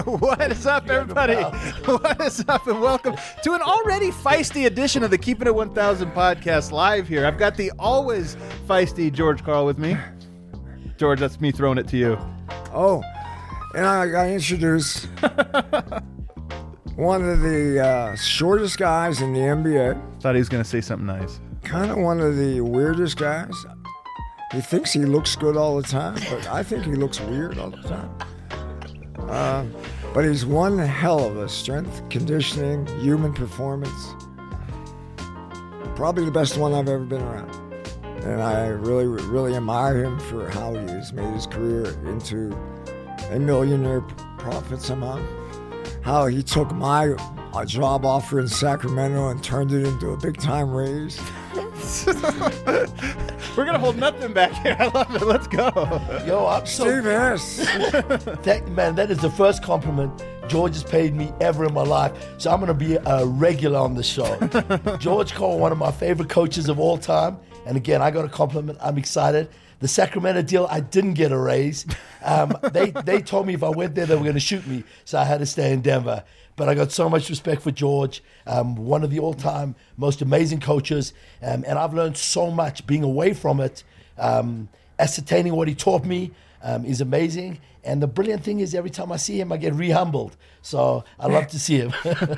What is up, everybody? What is up, and welcome to an already feisty edition of the Keeping It 1000 podcast live here. I've got the always feisty George Karl with me. George, that's me throwing it to you. Oh, and I got to introduce one of the shortest guys in the NBA. Thought he was going to say something nice. Kind of one of the weirdest guys. He thinks he looks good all the time, but I think he looks weird all the time. But he's one hell of a strength, conditioning, human performance. Probably the best one I've ever been around. And I really, really admire him for how he has made his career into a millionaire profit somehow. How he took my job offer in Sacramento and turned it into a big-time raise. We're going to hold nothing back here. I love it. Let's go. Yo, I'm so... Steve S. Man, that is the first compliment George has paid me ever in my life. So I'm going to be a regular on the show. George Karl, one of my favorite coaches of all time. And again, I got a compliment. I'm excited. The Sacramento deal, I didn't get a raise. They told me if I went there, they were going to shoot me. So I had to stay in Denver. But I got so much respect for George, one of the all-time most amazing coaches. And I've learned so much being away from it. Ascertaining what he taught me is amazing. And the brilliant thing is every time I see him, I get re-humbled. So I love to see him.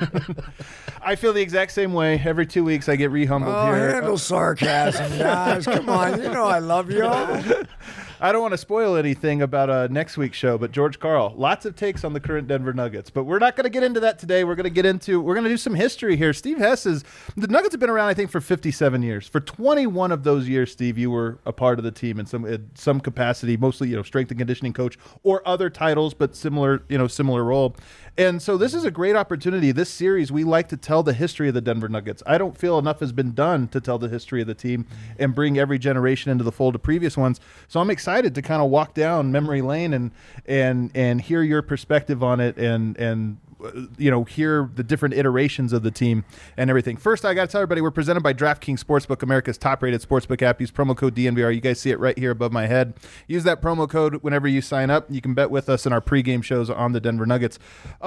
I feel the exact same way. Every 2 weeks, I get re-humbled here. Handle sarcasm, guys. Come on, you know I love y'all. I don't want to spoil anything about next week's show, but George Karl, lots of takes on the current Denver Nuggets. But we're not going to get into that today. We're going to do some history here. Steve Hess the Nuggets have been around, I think, for 57 years. For 21 of those years, Steve, you were a part of the team in some capacity, mostly, strength and conditioning coach or other titles, but similar role. And so this is a great opportunity. This series, we like to tell the history of the Denver Nuggets. I don't feel enough has been done to tell the history of the team and bring every generation into the fold of previous ones. So I'm excited to kind of walk down memory lane and hear your perspective on it and hear the different iterations of the team and everything. First, I got to tell everybody we're presented by DraftKings Sportsbook, America's top-rated sportsbook app. Use promo code DNVR. You guys see it right here above my head. Use that promo code whenever you sign up. You can bet with us in our pregame shows on the Denver Nuggets.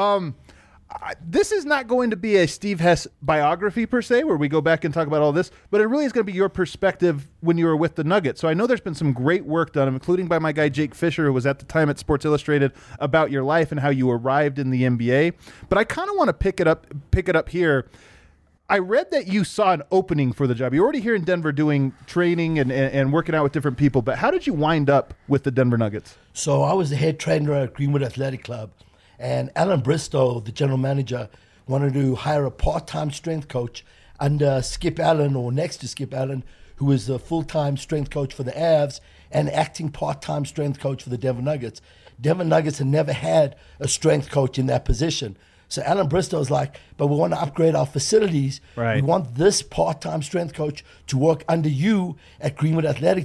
This is not going to be a Steve Hess biography per se, where we go back and talk about all this, but it really is going to be your perspective when you were with the Nuggets. So I know there's been some great work done, including by my guy Jake Fisher, who was at the time at Sports Illustrated, about your life and how you arrived in the NBA. But I kind of want to pick it up here. I read that you saw an opening for the job. You're already here in Denver doing training and working out with different people, but how did you wind up with the Denver Nuggets? So I was the head trainer at Greenwood Athletic Club. And Alan Bristow, the general manager, wanted to hire a part-time strength coach under Skip Allen, or next to Skip Allen, who was the full-time strength coach for the Avs and acting part-time strength coach for the Denver Nuggets. Denver Nuggets had never had a strength coach in that position. So Alan Bristow was like, but we want to upgrade our facilities. Right. We want this part-time strength coach to work under you at Greenwood Athletic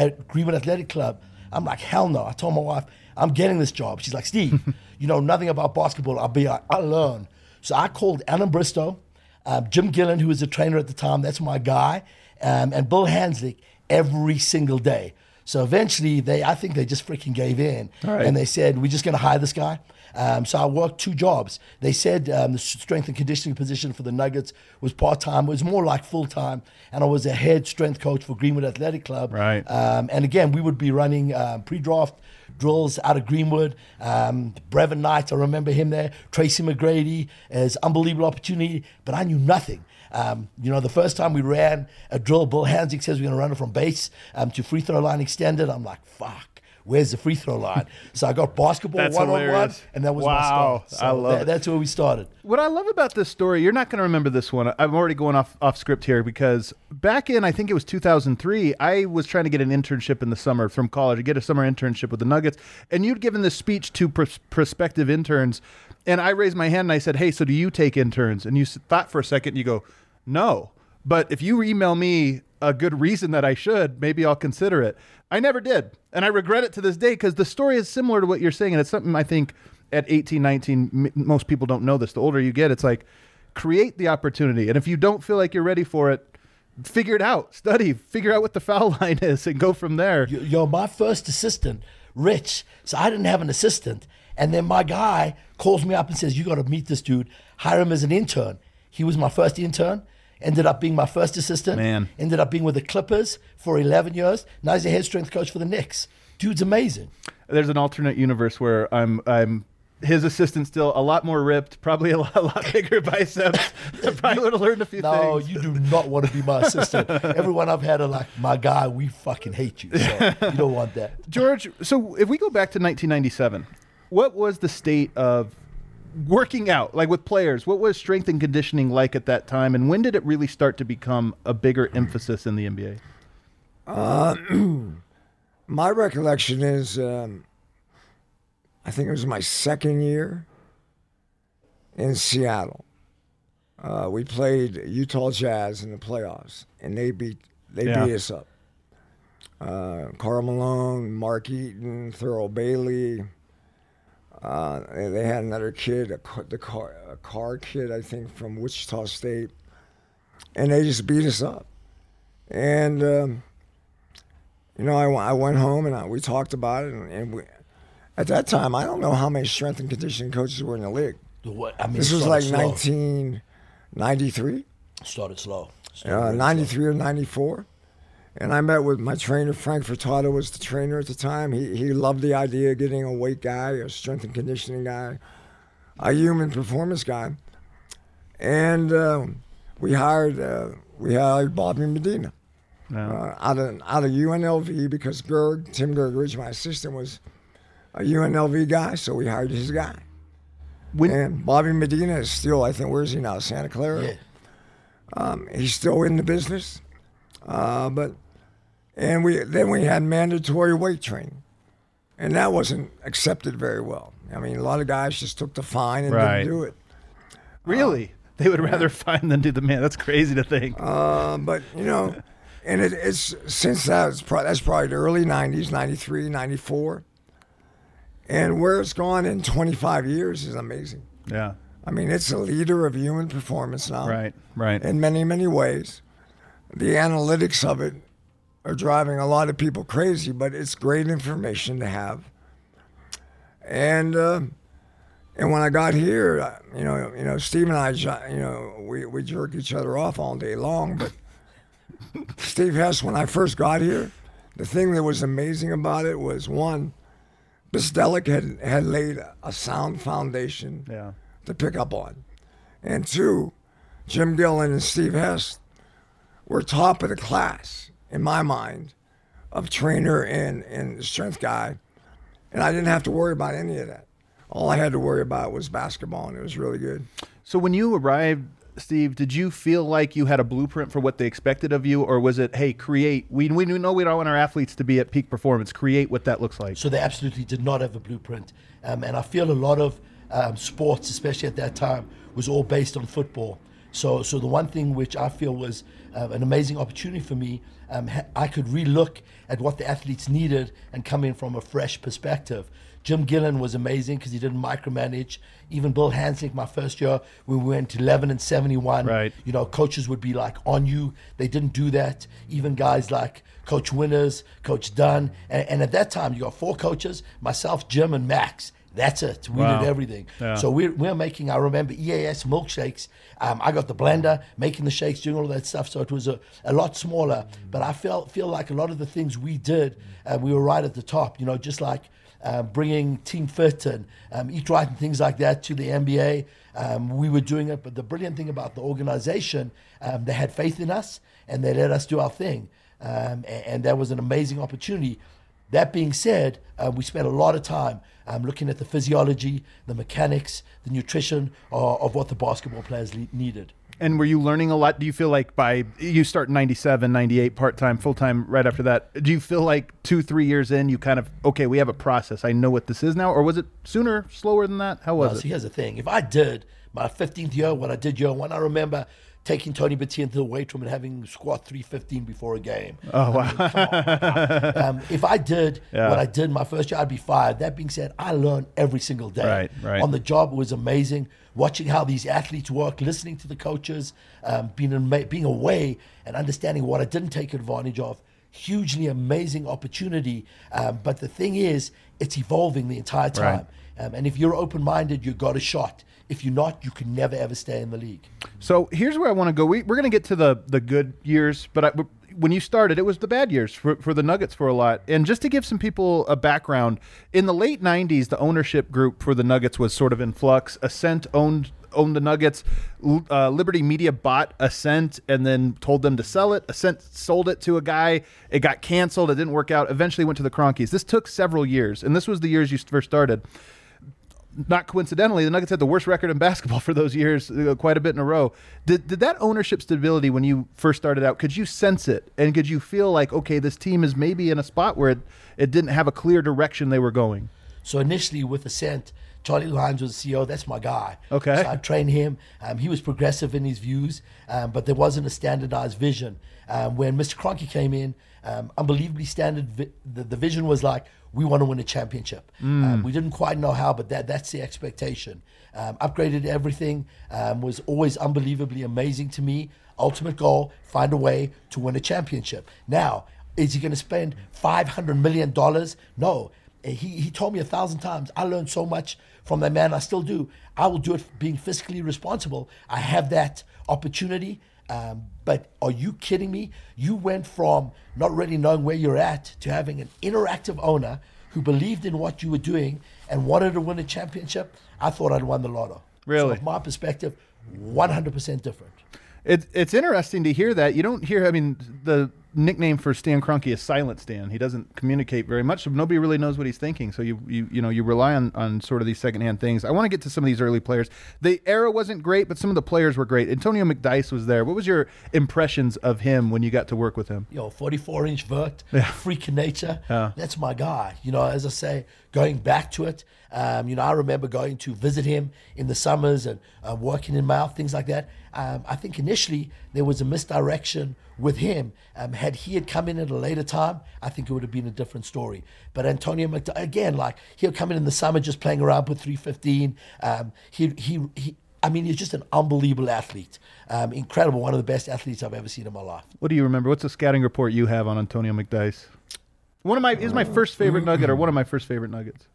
Club. I'm like, hell no. I told my wife, I'm getting this job. She's like, Steve, you know nothing about basketball. I'll learn. So I called Alan Bristow, Jim Gillen, who was a trainer at the time. That's my guy. And Bill Hanslick every single day. So eventually, I think they just freaking gave in. Right. And they said, we're just going to hire this guy. So I worked 2 jobs. They said the strength and conditioning position for the Nuggets was part-time. It was more like full-time. And I was a head strength coach for Greenwood Athletic Club. Right. And again, we would be running pre-draft drills out of Greenwood. Brevin Knight, I remember him there. Tracy McGrady, as unbelievable opportunity. But I knew nothing. The first time we ran a drill, Bill Hanslick says we're going to run it from base to free throw line extended. I'm like, fuck. Where's the free throw line? So I got basketball one-on-one, and that was my start. So I love it. That's where we started. What I love about this story, you're not going to remember this one. I'm already going off script here, because back in, I think it was 2003, I was trying to get an internship in the summer from college, to get a summer internship with the Nuggets, and you'd given this speech to prospective interns, and I raised my hand and I said, hey, so do you take interns? And you thought for a second, and you go, no. But if you email me a good reason that I should, maybe I'll consider it. I never did. And I regret it to this day, because the story is similar to what you're saying. And it's something I think at 18, 19, most people don't know this. The older you get, it's like, create the opportunity. And if you don't feel like you're ready for it, figure it out, study, figure out what the foul line is, and go from there. My first assistant, Rich, so I didn't have an assistant. And then my guy calls me up and says, you got to meet this dude, hire him as an intern. He was my first intern, ended up being my first assistant, ended up being with the Clippers for 11 years. Now he's a head strength coach for the Knicks. Dude's amazing. There's an alternate universe where I'm his assistant, still a lot more ripped, probably a lot bigger biceps. Probably would have learned a few things. No, you do not want to be my assistant. Everyone I've had are like, my guy, we fucking hate you. So you don't want that. George, so if we go back to 1997, what was the state of working out, like with players? What was strength and conditioning like at that time? And when did it really start to become a bigger emphasis in the NBA? My recollection is, I think it was my second year in Seattle. We played Utah Jazz in the playoffs, and they beat us up. Karl Malone, Mark Eaton, Thurl Bailey. They had another kid, a car kid, I think, from Wichita State, and they just beat us up. And I went home and we talked about it, and we. At that time, I don't know how many strength and conditioning coaches were in the league. This was like 1993. Started slow. 93 or 94. And I met with my trainer, Frank Furtado was the trainer at the time. He loved the idea of getting a weight guy, a strength and conditioning guy, a human performance guy. And we hired Bobby Medina out of UNLV, because Tim Gergeridge, my assistant, was a UNLV guy, so we hired his guy. And Bobby Medina is still, I think, where is he now? Santa Clara? Yeah. He's still in the business. Then we had mandatory weight training, and that wasn't accepted very well. I mean, a lot of guys just took the fine and didn't do it. Really? They would rather fine than do the man. That's crazy to think. But, and it's since that's probably the early 90s, 93, 94. And where it's gone in 25 years is amazing. Yeah. I mean, it's a leader of human performance now. Right. In many, many ways. The analytics of it are driving a lot of people crazy, but it's great information to have. And when I got here, Steve and I, we jerk each other off all day long. But Steve Hess, when I first got here, the thing that was amazing about it was, one, Bisdelic had laid a sound foundation to pick up on. And two, Jim Gillen and Steve Hess were top of the class, in my mind, of trainer and strength guy. And I didn't have to worry about any of that. All I had to worry about was basketball, and it was really good. So when you arrived, Steve, did you feel like you had a blueprint for what they expected of you, or was it, hey, create? We know we don't want our athletes to be at peak performance. Create what that looks like. So they absolutely did not have a blueprint. And I feel a lot of sports, especially at that time, was all based on football. So the one thing which I feel was an amazing opportunity for me, I could relook at what the athletes needed and come in from a fresh perspective. Jim Gillen was amazing because he didn't micromanage. Even Bill Hanslick, my first year, we went 11-71. Right. Coaches would be like on you. They didn't do that. Even guys like Coach Winters, Coach Dunn. And at that time, you got 4 coaches, myself, Jim, and Max. That's it. We did everything. Yeah. So we're making, I remember, EAS milkshakes. I got the blender, making the shakes, doing all of that stuff. So it was a lot smaller. But I feel like a lot of the things we did, we were right at the top. Just like bringing Team Fit and Eat Right and things like that to the NBA. We were doing it. But the brilliant thing about the organization, they had faith in us and they let us do our thing. And that was an amazing opportunity. That being said, we spent a lot of time looking at the physiology, the mechanics, the nutrition of what the basketball players needed. And were you learning a lot? Do you feel like you start in 97, 98, part-time, full-time right after that, do you feel like 2-3 years in, you kind of, okay, we have a process, I know what this is now? Or was it sooner, slower than that? How was it? See, here's the thing. If I did my 15th year, what I did year one, I remember taking Tony Battia into the weight room and having squat 315 before a game. Oh, wow. If I did what I did my first year, I'd be fired. That being said, I learned every single day. Right. On the job, it was amazing. Watching how these athletes work, listening to the coaches, being away and understanding what I didn't take advantage of. Hugely amazing opportunity. But the thing is, it's evolving the entire time. Right. And if you're open-minded, you got a shot. If you're not, you can never, ever stay in the league. So here's where I want to go. We're going to get to the good years, but when you started, it was the bad years for the Nuggets for a lot. And just to give some people a background, in the late 90s, the ownership group for the Nuggets was sort of in flux. Ascent owned the Nuggets. Liberty Media bought Ascent and then told them to sell it. Ascent sold it to a guy. It got canceled. It didn't work out. Eventually went to the Cronkies. This took several years, and this was the years you first started. Not coincidentally, the Nuggets had the worst record in basketball for those years, quite a bit in a row. Did that ownership stability when you first started out, could you sense it? And could you feel like, okay, this team is maybe in a spot where it didn't have a clear direction they were going? So initially with Ascent, Charlie Lyons was the CEO. That's my guy. Okay. So I trained him. He was progressive in his views, but there wasn't a standardized vision. When Mr. Kroenke came in, unbelievably standard. The vision was like, we want to win a championship. We didn't quite know how, but that's the expectation. Upgraded everything, was always unbelievably amazing to me. Ultimate goal, find a way to win a championship. Now, is he going to spend $500 million? No. He told me 1,000 times, I learned so much from that man, I still do. I will do it being fiscally responsible. I have that opportunity. But are you kidding me? You went from not really knowing where you're at to having an interactive owner who believed in what you were doing and wanted to win a championship. I thought I'd won the lotto. Really? So from my perspective, 100% different. It's interesting to hear that. You don't hear, I mean, the nickname for Stan Kroenke is Silent Stan. He doesn't communicate very much, so nobody really knows what he's thinking. So you rely on sort of these secondhand things. I want to get to some of these early players. The era wasn't great, but some of the players were great. Antonio McDyess was there. What was your impressions of him when you got to work with him? 44-inch vert, freak in nature. Yeah. That's my guy. As I say, going back to it, I remember going to visit him in the summers and working in mouth, things like that. I think initially there was a misdirection with him. Had he come in at a later time, I think it would have been a different story. But Antonio McDyess, again, like he'll come in the summer just playing around with 315. He's just an unbelievable athlete. Incredible, one of the best athletes I've ever seen in my life. What do you remember? What's the scouting report you have on Antonio McDyess? He's my first favorite Nugget, or one of my first favorite Nuggets.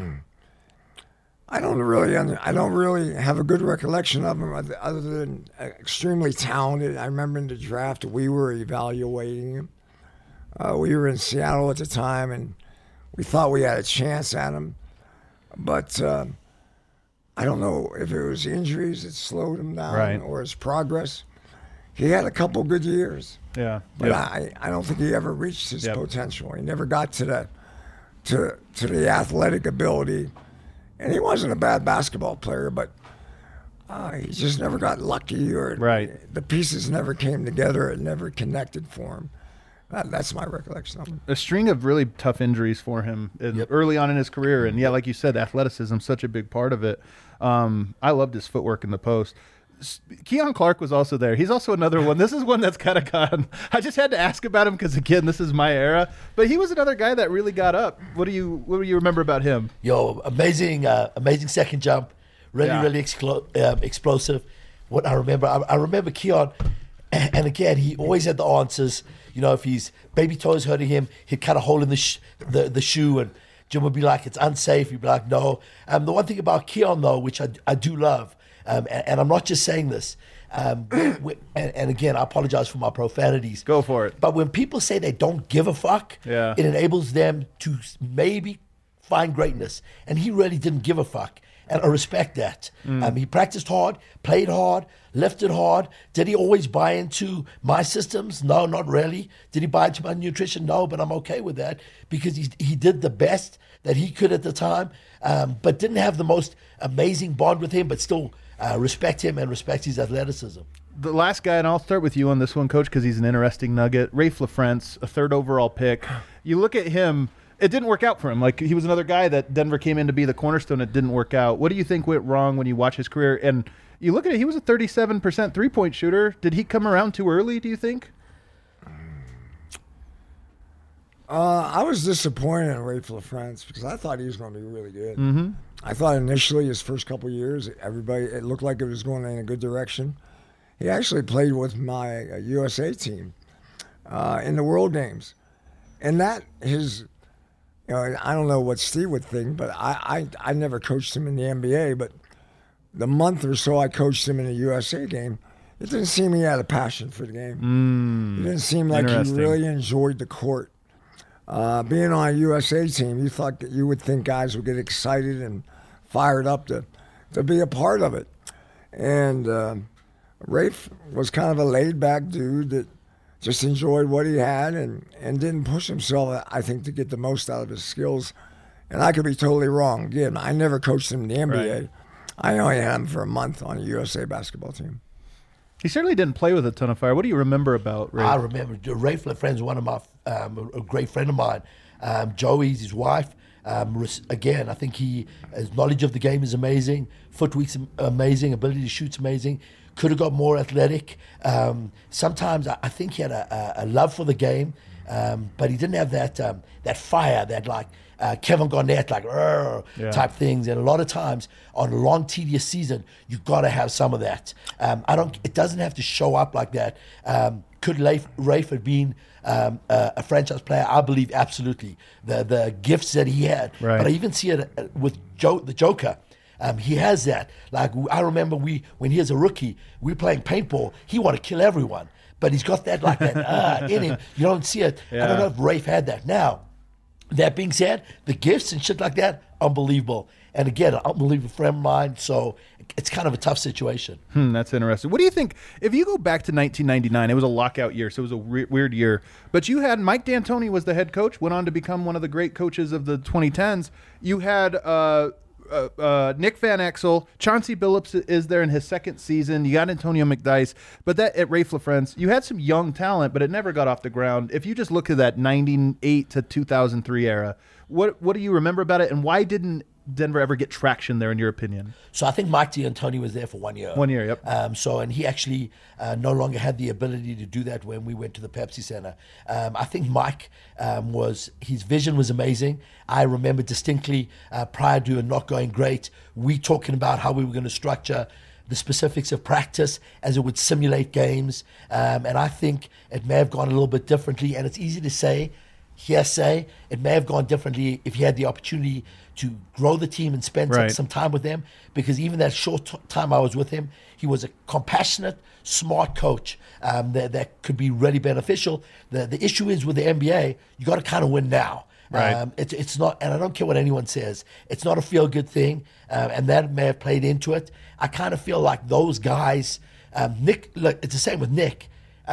I don't really have a good recollection of him other than extremely talented. I remember in the draft we were evaluating him. We were in Seattle at the time, and we thought we had a chance at him. But I don't know if it was injuries that slowed him down or his progress. He had a couple good years. Yeah. But I don't think he ever reached his potential. He never got to the athletic ability. And he wasn't a bad basketball player, but he just never got lucky, or the pieces never came together. It never connected for him. That's my recollection of him. A string of really tough injuries for him early on in his career. And, like you said, athleticism, such a big part of it. I loved his footwork in the post. Keon Clark was also there. He's also another one. This is one that's kind of gone. I just had to ask about him because, again, this is my era. But he was another guy that really got up. What do you remember about him? Amazing second jump. Really explosive. What I remember Keon, and again, he always had the answers. If his baby toes hurting him, he'd cut a hole in the shoe, and Jim would be like, it's unsafe. He'd be like, no. The one thing about Keon, though, which I do love, and I'm not just saying this, and again, I apologize for my profanities. Go for it. But when people say they don't give a fuck, it enables them to maybe find greatness. And he really didn't give a fuck. And I respect that. He practiced hard, played hard, lifted hard. Did he always buy into my systems? No, not really. Did he buy into my nutrition? No, but I'm okay with that because he did the best that he could at the time, but didn't have the most amazing bond with him, but still respect him and respect his athleticism. The last guy, and I'll start with you on this one, Coach, because he's an interesting nugget. Raef LaFrentz, a third overall pick. You look at him, it didn't work out for him. Like, he was another guy that Denver came in to be the cornerstone. It didn't work out. What do you think went wrong when you watch his career? And you look at it, he was a 37% three-point shooter. Did he come around too early, do you think? I was disappointed in Raef LaFrentz because I thought he was going to be really good. Mm-hmm. I thought initially his first couple of years, it looked like it was going in a good direction. He actually played with my USA team in the World Games. And that his I don't know what Steve would think, but I never coached him in the NBA, but the month or so I coached him in a USA game, it didn't seem he had a passion for the game. It didn't seem like he really enjoyed the court. Being on a USA team, you would think guys would get excited and fired up to be a part of it. And Rafe was kind of a laid-back dude that just enjoyed what he had and didn't push himself, I think, to get the most out of his skills. And I could be totally wrong. Again, I never coached him in the NBA. Right. I only had him for a month on a USA basketball team. He certainly didn't play with a ton of fire. What do you remember about Rafe? I remember Rafe LaFrenz, one of my a great friend of mine. Joey's his wife. Again, I think his knowledge of the game is amazing. Footwork's amazing. Ability to shoot's amazing. Could have got more athletic. Sometimes I think he had a love for the game, but he didn't have that fire, that like Kevin Garnett, like type things. And a lot of times on a long, tedious season, you've got to have some of that. It doesn't have to show up like that. Could Rafe have been a franchise player? I believe absolutely. The gifts that he had. Right. But I even see it with the Joker. He has that. Like, I remember when he was a rookie, we were playing paintball. He wanted to kill everyone. But he's got that in him. You don't see it. Yeah. I don't know if Rafe had that. Now, that being said, the gifts and shit like that, unbelievable. And again, an unbelievable friend of mine. So it's kind of a tough situation. That's interesting. What do you think, if you go back to 1999, it was a lockout year, so it was a weird year. But you had Mike D'Antoni was the head coach, went on to become one of the great coaches of the 2010s. You had Nick Van Exel, Chauncey Billups is there in his second season. You got Antonio McDyess, but that at Rafe LaFrenz, you had some young talent, but it never got off the ground. If you just look at that 98 to 2003 era, what do you remember about it, and why didn't Denver ever get traction there, in your opinion? So I think Mike D'Antoni was there for 1 year. 1 year, yep. And he actually no longer had the ability to do that when we went to the Pepsi Center. I think Mike his vision was amazing. I remember distinctly prior to it not going great, we talking about how we were going to structure the specifics of practice as it would simulate games. And I think it may have gone a little bit differently. And it's easy to say, hearsay, it may have gone differently if he had the opportunity to grow the team and spend some time with them, because even that short time I was with him, he was a compassionate, smart coach that could be really beneficial. The issue is with the NBA, you got to kind of win now. Right. It's not, and I don't care what anyone says, it's not a feel-good thing, and that may have played into it. I kind of feel like those guys, Nick, look, it's the same with Nick,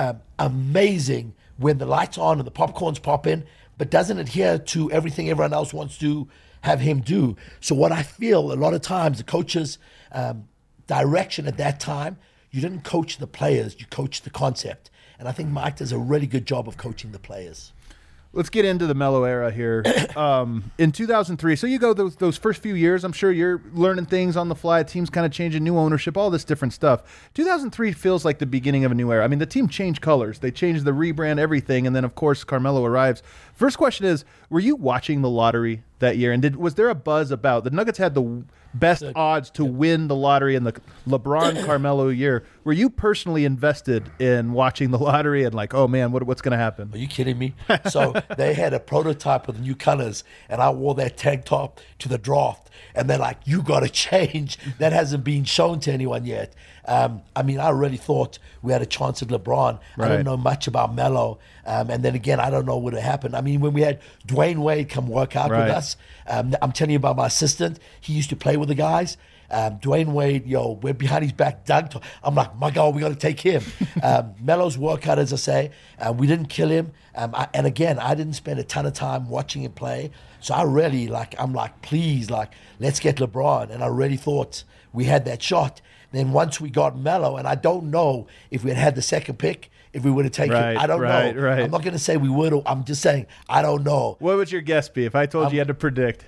amazing when the lights on and the popcorn's popping, but doesn't adhere to everything everyone else wants to have him do. So what I feel a lot of times, the coach's direction at that time, you didn't coach the players, you coached the concept. And I think Mike does a really good job of coaching the players. Let's get into the Melo era here. In 2003, so you go those first few years, I'm sure you're learning things on the fly, teams kind of changing, new ownership, all this different stuff. 2003 feels like the beginning of a new era. I mean, the team changed colors. They changed the rebrand, everything, and then, of course, Carmelo arrives. First question is, were you watching the lottery that year? And was there a buzz about, the Nuggets had the best odds to win the lottery in the LeBron Carmelo year. Were you personally invested in watching the lottery and like, oh man, what's going to happen? Are you kidding me? So they had a prototype of the new colors, and I wore that tank top to the draft, and they're like, you got to change. That hasn't been shown to anyone yet. I mean, I really thought we had a chance at LeBron. Right. I don't know much about Melo. And then again, I don't know what would happen. I mean, when we had Dwayne Wade come work out with us, I'm telling you about my assistant. He used to play with the guys. Dwayne Wade, we're behind his back, Doug. I'm like, my God, we got to take him. Melo's workout, as I say, we didn't kill him. And again, I didn't spend a ton of time watching him play. So I really, I'm like, please, let's get LeBron. And I really thought we had that shot. Then once we got Melo, and I don't know if we had the second pick, if we would have taken it. I don't know. Right. I'm not going to say we would. I'm just saying, I don't know. What would your guess be if I told you had to predict?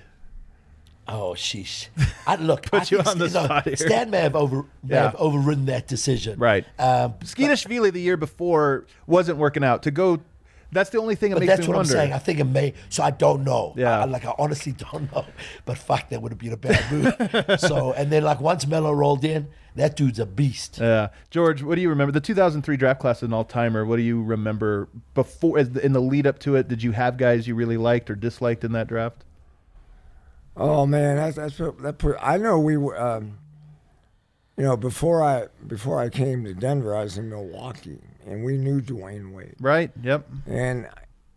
Oh, sheesh. Put you on the spot here. Stan may have overridden that decision. Right. Skeetashvili the year before wasn't working out. To go, that's the only thing that makes me wonder. That's what I'm saying. I think it may. So I don't know. Yeah. I honestly don't know. But fuck, that would have been a bad move. And then once Melo rolled in, That dude's a beast. Yeah. George, what do you remember? The 2003 draft class is an all-timer. What do you remember before, in the lead up to it? Did you have guys you really liked or disliked in that draft? Oh man, I know we were. Before I came to Denver, I was in Milwaukee, and we knew Dwayne Wade. Right. Yep. And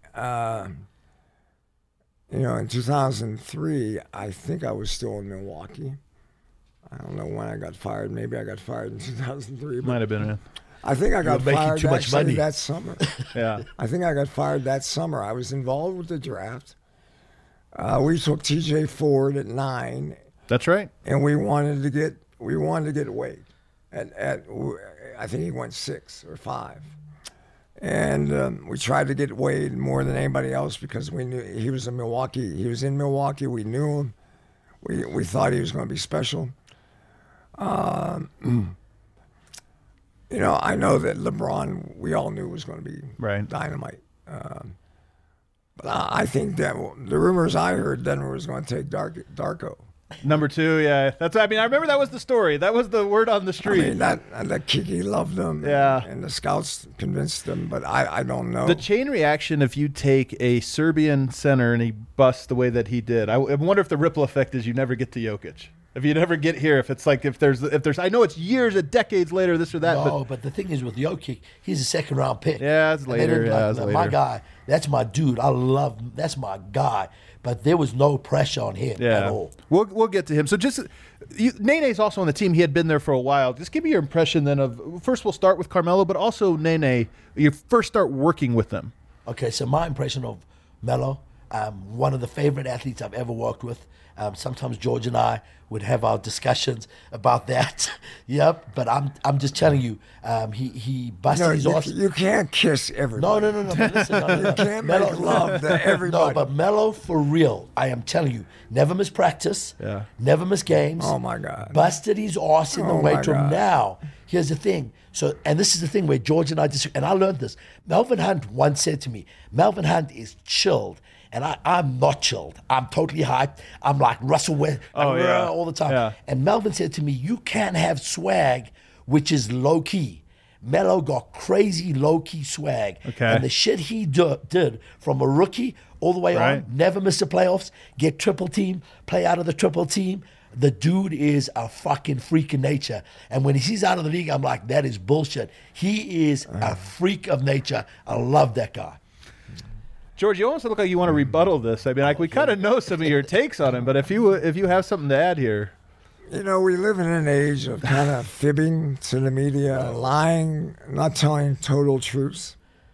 in 2003, I think I was still in Milwaukee. I don't know when I got fired. Maybe I got fired in 2003. Might have been. Yeah. I think I got fired too much money that summer. Yeah. I think I got fired that summer. I was involved with the draft. We took T.J. Ford at 9. That's right. And we wanted to get Wade. I think he went 6 or 5. And we tried to get Wade more than anybody else because we knew he was in Milwaukee. He was in Milwaukee. We knew him. We thought he was going to be special. I know that LeBron, we all knew was going to be dynamite. But I think that the rumors I heard, Denver was going to take Darko. Number 2, yeah. I remember that was the story. That was the word on the street. That Kiki loved him. Yeah. And the scouts convinced him, but I don't know. The chain reaction, if you take a Serbian center and he busts the way that he did, I wonder if the ripple effect is you never get to Jokic. If you never get here, if it's like if there's I know it's years and decades later, this or that. No, but the thing is with Jokic, he's a second-round pick. Yeah, it's later. My guy, that's my dude. I love him. That's my guy. But there was no pressure on him at all. We'll get to him. So just Nene's also on the team. He had been there for a while. Just give me your impression then of, first we'll start with Carmelo, but also Nene, you first start working with them. Okay, so my impression of Melo, one of the favorite athletes I've ever worked with. Sometimes George and I would have our discussions about that. Yep, but I'm just telling you, he busted his ass. You can't kiss everybody. No. But listen, no. You can't make love to everybody. No, but Melo, for real, I am telling you, never miss practice. Yeah. Never miss games. Oh my God. Busted his ass in the weight room. Now, here's the thing. So, and this is the thing where George and I disagree. And I learned this. Melvin Hunt once said to me, Melvin Hunt is chilled. And I'm not chilled. I'm totally hyped. I'm like Russell West all the time. Yeah. And Melvin said to me, you can't have swag which is low-key. Melo got crazy low-key swag. Okay. And the shit he did from a rookie all the way on, never miss the playoffs, get triple team, play out of the triple team. The dude is a fucking freak of nature. And when he's out of the league, I'm like, that is bullshit. He is a freak of nature. I love that guy. George, you almost look like you want to rebuttal this. I mean, we kind of know some of your takes on him, but if you have something to add here. We live in an age of kind of fibbing to the media, lying, not telling total truths.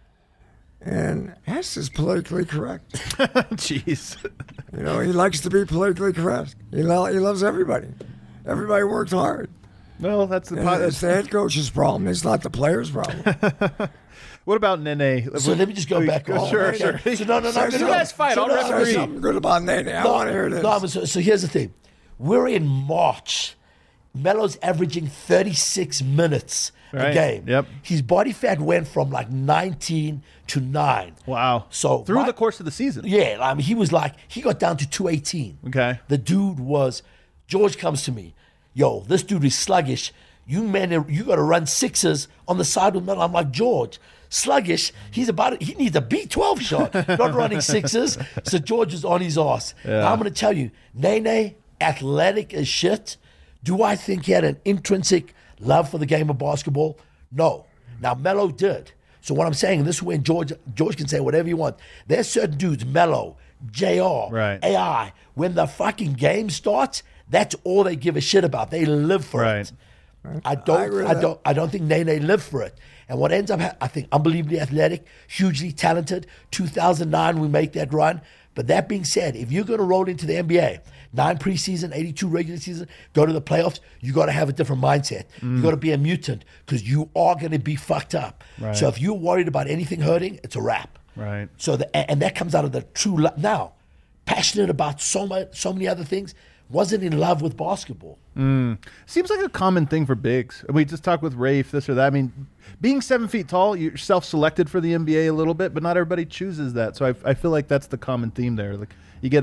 And Hess is politically correct. Jeez. He likes to be politically correct. He loves everybody. Everybody worked hard. Well, it's the head coach's problem. It's not the player's problem. What about Nene? So let me just go back. Sure. So no. You guys fight. I'll referee. Something good about Nene. I want to hear this. No, so here's the thing. We're in March. Melo's averaging 36 minutes a game. Yep. His body fat went from like 19 to 9. Wow. So through the course of the season. Yeah, I mean, he got down to 218. Okay. The dude George comes to me. Yo, this dude is sluggish. You got to run 6s on the side with Melo. I'm like, George, sluggish. He needs a B12 shot, not running 6s. So George is on his ass. Yeah. Now I'm going to tell you, Nene, athletic as shit. Do I think he had an intrinsic love for the game of basketball? No. Now, Melo did. So what I'm saying, and this is when George can say whatever you want. There's certain dudes, Melo, JR, AI, when the fucking game starts, that's all they give a shit about. They live for it. I don't think Nene lived for it. And what ends up, I think, unbelievably athletic, hugely talented. 2009, we make that run. But that being said, if you're going to roll into the NBA, 9 preseason, 82 regular season, go to the playoffs, you got to have a different mindset. You got to be a mutant because you are going to be fucked up. Right. So if you're worried about anything hurting, it's a wrap. Right. So and that comes out of the true love. Now, passionate about so many other things, wasn't in love with basketball. Seems like a common thing for bigs. We just talked with Rafe, this or that. I mean, being 7 feet tall, you're self-selected for the NBA a little bit, but not everybody chooses that. So I feel like that's the common theme there. Like you get a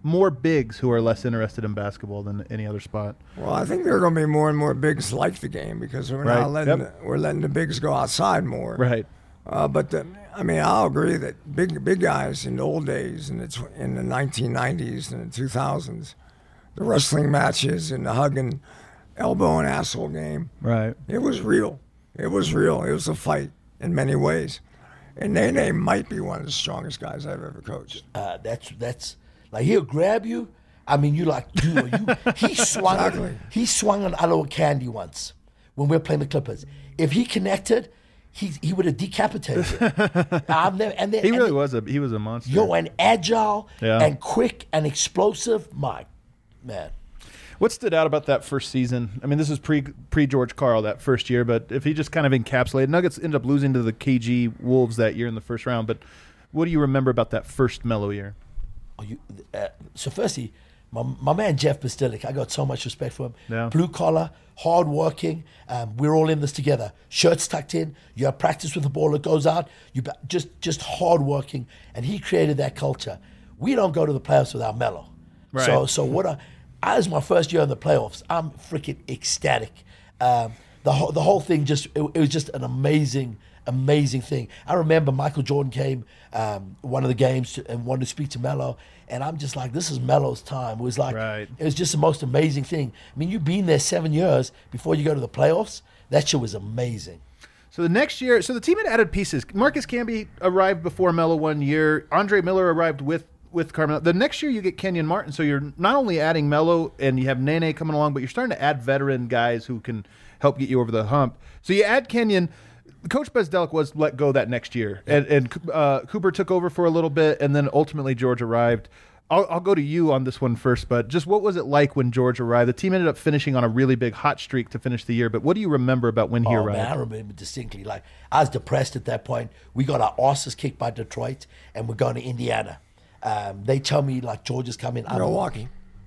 more bigs who are less interested in basketball than any other spot? Well, I think there are going to be more and more bigs like the game because we're Right. now letting Yep. we're letting the bigs go outside more. Right. But I'll agree that big guys in the old days, in the 1990s and the 2000s, the wrestling matches and the hugging, elbow and asshole game, Right. it was real. It was real. It was a fight in many ways. And Nene might be one of the strongest guys I've ever coached. That's like he'll grab you. I mean, you like, dude, he swung. Exactly. He swung on Aloe Candy once when we were playing the Clippers. If he connected, he would have decapitated him. He really was a monster. Yo, and agile Yeah. and quick and explosive. My man. What stood out about that first season? I mean, this is pre George Karl that first year, but if he just kind of encapsulated, Nuggets ended up losing to the KG Wolves that year in the first round. But what do you remember about that first Melo year? So firstly, my man Jeff Bastilic, I got so much respect for him. Yeah. Blue collar, hard working. We're all in this together. Shirts tucked in. You have practice with the ball that goes out. Just hard working, and he created that culture. We don't go to the playoffs without Melo. Right. So as my first year in the playoffs, I'm freaking ecstatic. The whole thing it was just an amazing thing. I remember Michael Jordan came one of the games and wanted to speak to Melo, and I'm just like, this is Melo's time. It was like, Right. It was just the most amazing thing. I mean, you've been there 7 years before you go to the playoffs. That shit was amazing. So the next year, the team had added pieces. Marcus Camby arrived before Melo 1 year. Andre Miller arrived with Carmelo. The next year you get Kenyon Martin, so you're not only adding Melo and you have Nene coming along, but you're starting to add veteran guys who can help get you over the hump. So you add Kenyon. Coach Bezdelic was let go that next year, and Cooper took over for a little bit, and then ultimately George arrived. I'll go to you on this one first, but just what was it like when George arrived? The team ended up finishing on a really big hot streak to finish the year, but what do you remember about when he arrived? Man, I remember distinctly. Like, I was depressed at that point. We got our asses kicked by Detroit, and we're going to Indiana. They tell me, like, George is coming. Milwaukee.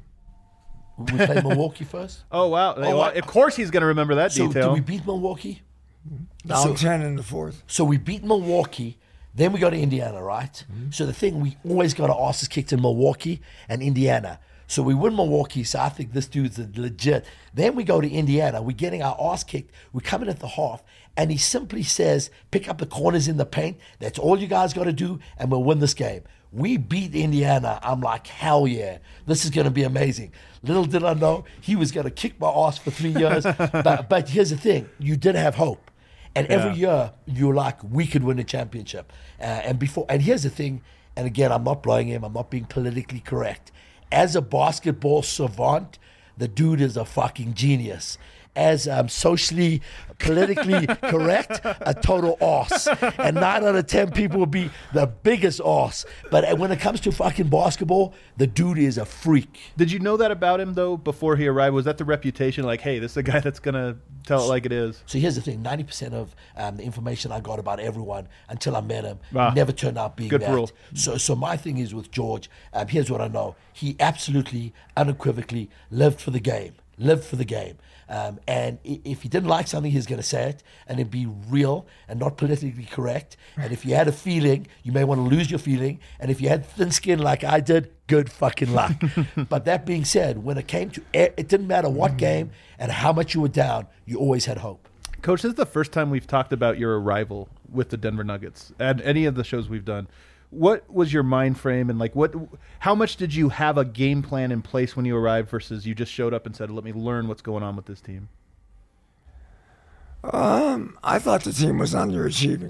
We played Milwaukee first. Oh, wow. Of course he's going to remember that So detail. did we beat Milwaukee? Down 10 in the fourth. So we beat Milwaukee, then we go to Indiana, right? So the thing, we always got our asses kicked in Milwaukee and Indiana. So we win Milwaukee, so I think this dude's legit. Then we go to Indiana, we're getting our ass kicked, we're coming at the half, and he simply says, pick up the corners in the paint, that's all you guys got to do, and we'll win this game. We beat Indiana. I'm like, hell yeah, this is going to be amazing. Little did I know, he was going to kick my ass for 3 years. but here's the thing, you did have hope. And every year, you're like, we could win a championship. And here's the thing, and again, I'm not blowing him, I'm not being politically correct. As a basketball savant, the dude is a fucking genius. As socially, politically correct, a total arse. And 9 out of 10 people will be the biggest arse. But when it comes to fucking basketball, the dude is a freak. Did you know that about him, though, before he arrived? Was that the reputation? Like, hey, this is a guy that's going to tell it like it is? So here's the thing, 90% of the information I got about everyone until I met him Wow. never turned out being Good that. rule. So my thing is with George, here's what I know. He absolutely, unequivocally lived for the game. And if he didn't like something, he's going to say it, and it'd be real and not politically correct. And if you had a feeling, you may want to lose your feeling. And if you had thin skin like I did, good fucking luck. But that being said, when it came to it didn't matter what game and how much you were down, you always had hope. Coach, this is the first time we've talked about your arrival with the Denver Nuggets and any of the shows we've done. What was your mind frame, and how much did you have a game plan in place when you arrived versus you just showed up and said, let me learn what's going on with this team? I thought the team was underachieving.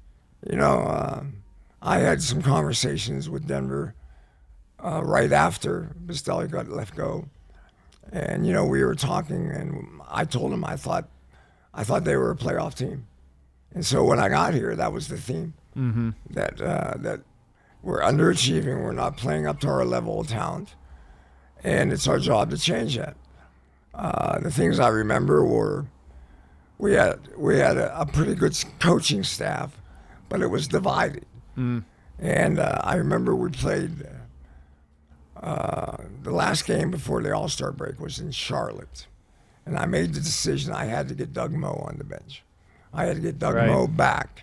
I had some conversations with Denver right after Bastelic got let go. And, we were talking, and I told him I thought they were a playoff team. And so when I got here, that was the theme. Mm-hmm. That we're underachieving, we're not playing up to our level of talent, and it's our job to change that. The things I remember were we had a pretty good coaching staff, but it was divided. Mm. And I remember we played the last game before the All-Star break was in Charlotte, and I made the decision I had to get Doug Moe on the bench. I had to get Doug Moe back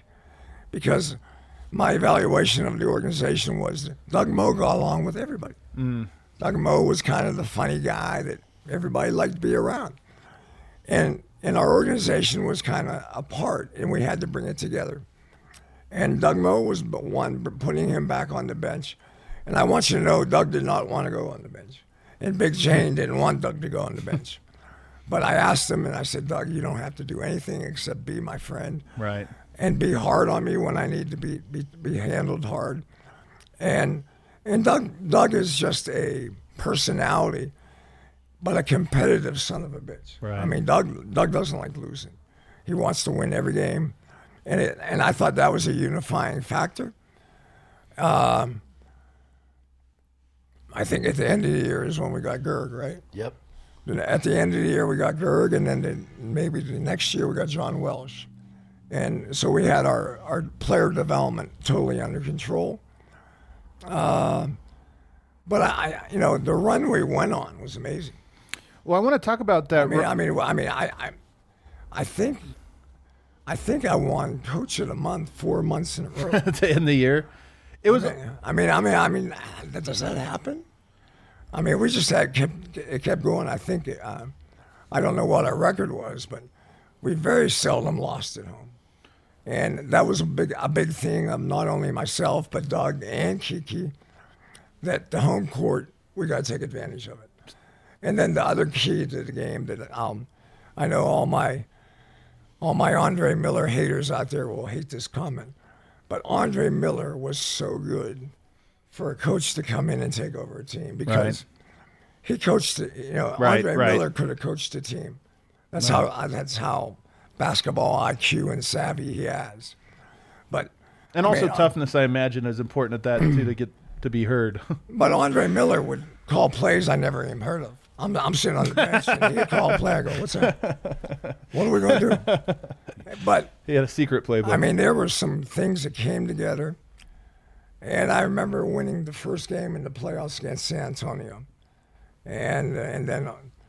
because my evaluation of the organization was that Doug Moe got along with everybody. Mm. Doug Moe was kind of the funny guy that everybody liked to be around. And our organization was kind of apart, and we had to bring it together. And Doug Moe was the one putting him back on the bench. And I want you to know, Doug did not want to go on the bench. And Big Shane didn't want Doug to go on the bench. But I asked him, and I said, Doug, you don't have to do anything except be my friend. Right. And be hard on me when I need to be handled hard. And Doug is just a personality, but a competitive son of a bitch. Right. I mean, Doug doesn't like losing. He wants to win every game. And I thought that was a unifying factor. I think at the end of the year is when we got Gerg, right? Yep. At the end of the year, we got Gerg, and then maybe the next year we got John Welsh. And so we had our player development totally under control. But the run we went on was amazing. Well, I want to talk about that. I think I won Coach of the Month 4 months in a row. To end the year. It was. I mean, does that happen? I mean, we just it kept going. I think I don't know what our record was, but we very seldom lost at home, and that was a big thing of not only myself but Doug and Kiki, that the home court we got to take advantage of it. And then the other key to the game that I know all my Andre Miller haters out there will hate this comment, but Andre Miller was so good for a coach to come in and take over a team because he coached it. Andre Miller could have coached a team. That's how basketball IQ and savvy he has. But toughness, I imagine, is important at that too, to get to be heard. But Andre Miller would call plays I never even heard of. I'm sitting on the bench and he'd call a play. I go, what's that? What are we going to do? But he had a secret playbook. I mean, there were some things that came together. And I remember winning the first game in the playoffs against San Antonio. And then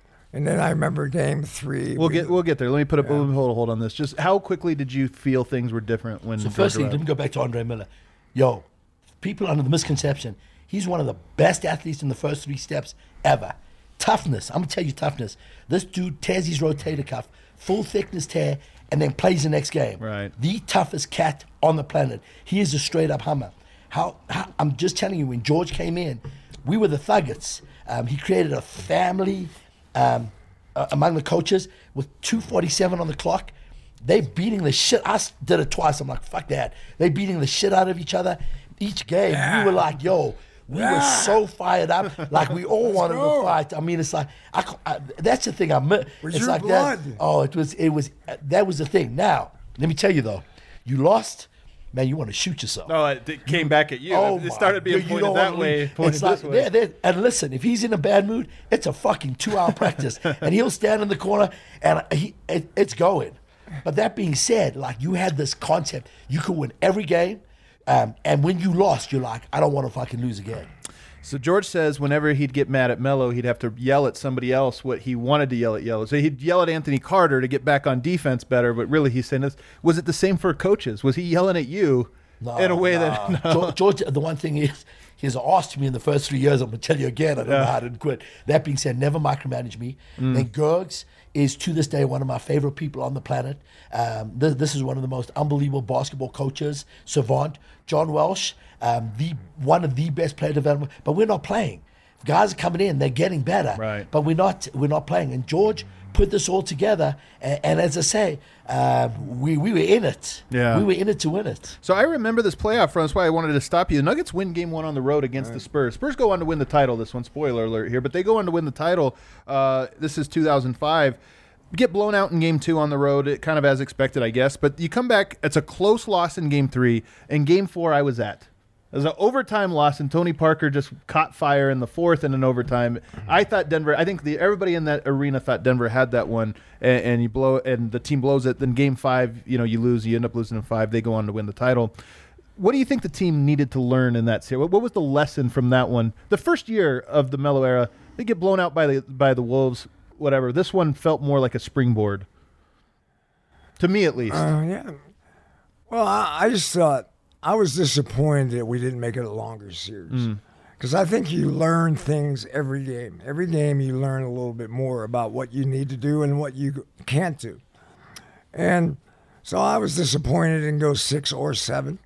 I remember game 3. We'll get there. Let me put a hold on this. Just how quickly did you feel things were different when? So firstly, let me go back to Andre Miller. Yo, people under the misconception, he's one of the best athletes in the first 3 steps ever. Toughness. I'm gonna tell you toughness. This dude tears his rotator cuff, full thickness tear, and then plays the next game. Right. The toughest cat on the planet. He is a straight up hummer. How I'm just telling you, when George came in, we were the Thuggets. He created a family among the coaches with 2:47 on the clock. They beating the shit. I did it twice. I'm like, fuck that. They beating the shit out of each other. Each game, we were like, yo, we were so fired up. Like we all wanted to fight. I mean, it's like, that's the thing I miss. It's your like blood. that. Oh, that was the thing. Now, let me tell you though, you lost. Man, you want to shoot yourself. No, it came back at you. Oh, it started being pointed that way, pointed this way. And listen, if he's in a bad mood, it's a fucking 2-hour practice. And he'll stand in the corner and it's going. But that being said, like you had this concept, you could win every game. And when you lost, you're like, I don't want to fucking lose again. So George says whenever he'd get mad at Melo, he'd have to yell at somebody else what he wanted to yell at Melo. So he'd yell at Anthony Carter to get back on defense better, but really he's saying this. Was it the same for coaches? Was he yelling at you in a way that... No. George, the one thing is, he's asked me in the first 3 years, I'm going to tell you again, I don't know how to quit. That being said, never micromanage me. Then Gergs is to this day one of my favorite people on the planet. This is one of the most unbelievable basketball coaches, savant. John Welsh, one of the best player development, but we're not playing. Guys are coming in, they're getting better, right. But we're not playing. And George put this all together, and as I say, we were in it. Yeah. We were in it to win it. So I remember this playoff run. That's why I wanted to stop you. The Nuggets win game 1 on the road against the Spurs. Spurs go on to win the title. This one, spoiler alert here, but they go on to win the title. This is 2005. Get blown out in game 2 on the road, it kind of as expected, I guess. But you come back, it's a close loss in game 3. And game 4 I was at. It was an overtime loss, and Tony Parker just caught fire in the 4th in an overtime. I thought Denver, I think everybody in that arena thought Denver had that one, and you blow, and the team blows it. Then game 5, you lose, you end up losing in 5. They go on to win the title. What do you think the team needed to learn in that series? What was the lesson from that one? The first year of the Melo era, they get blown out by the Wolves, whatever. This one felt more like a springboard. To me, at least. Yeah. Well, I just thought, I was disappointed that we didn't make it a longer series. Because I think you learn things every game. Every game you learn a little bit more about what you need to do and what you can't do. And so I was disappointed in go 6 or 7.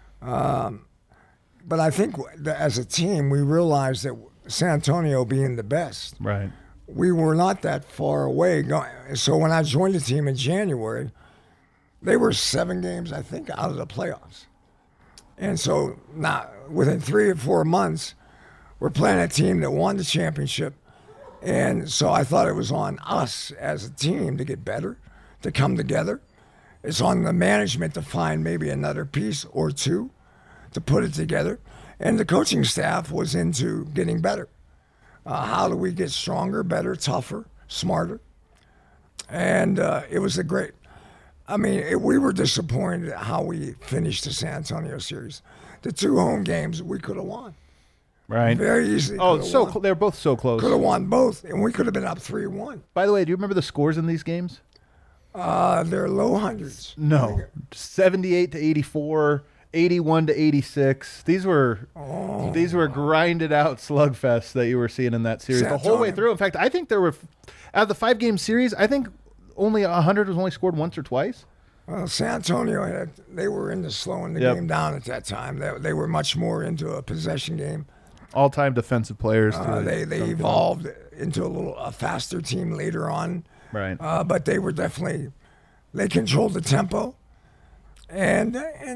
But I think as a team, we realized that San Antonio being the best, Right. we were not that far away. So when I joined the team in January, they were 7 games, I think, out of the playoffs. And so now, within 3 or 4 months, we're playing a team that won the championship. And so I thought it was on us as a team to get better, to come together. It's on the management to find maybe another piece or two to put it together. And the coaching staff was into getting better. How do we get stronger, better, tougher, smarter? And it was a great, we were disappointed at how we finished the San Antonio series. The 2 home games we could have won. Right. Very easily. Oh, they're both so close. Could have won both, and we could have been up 3-1. By the way, do you remember the scores in these games? They're low hundreds. No. 78 to 84, 81 to 86. These were grinded out slugfests that you were seeing in that series the whole way through. In fact, I think there were, out of the 5-game series, I think only 100 was only scored once or twice. Well, San Antonio, they were into slowing the game down at that time. They were much more into a possession game. All-time defensive players. They evolved into a faster team later on. Right. But they were they controlled the tempo. And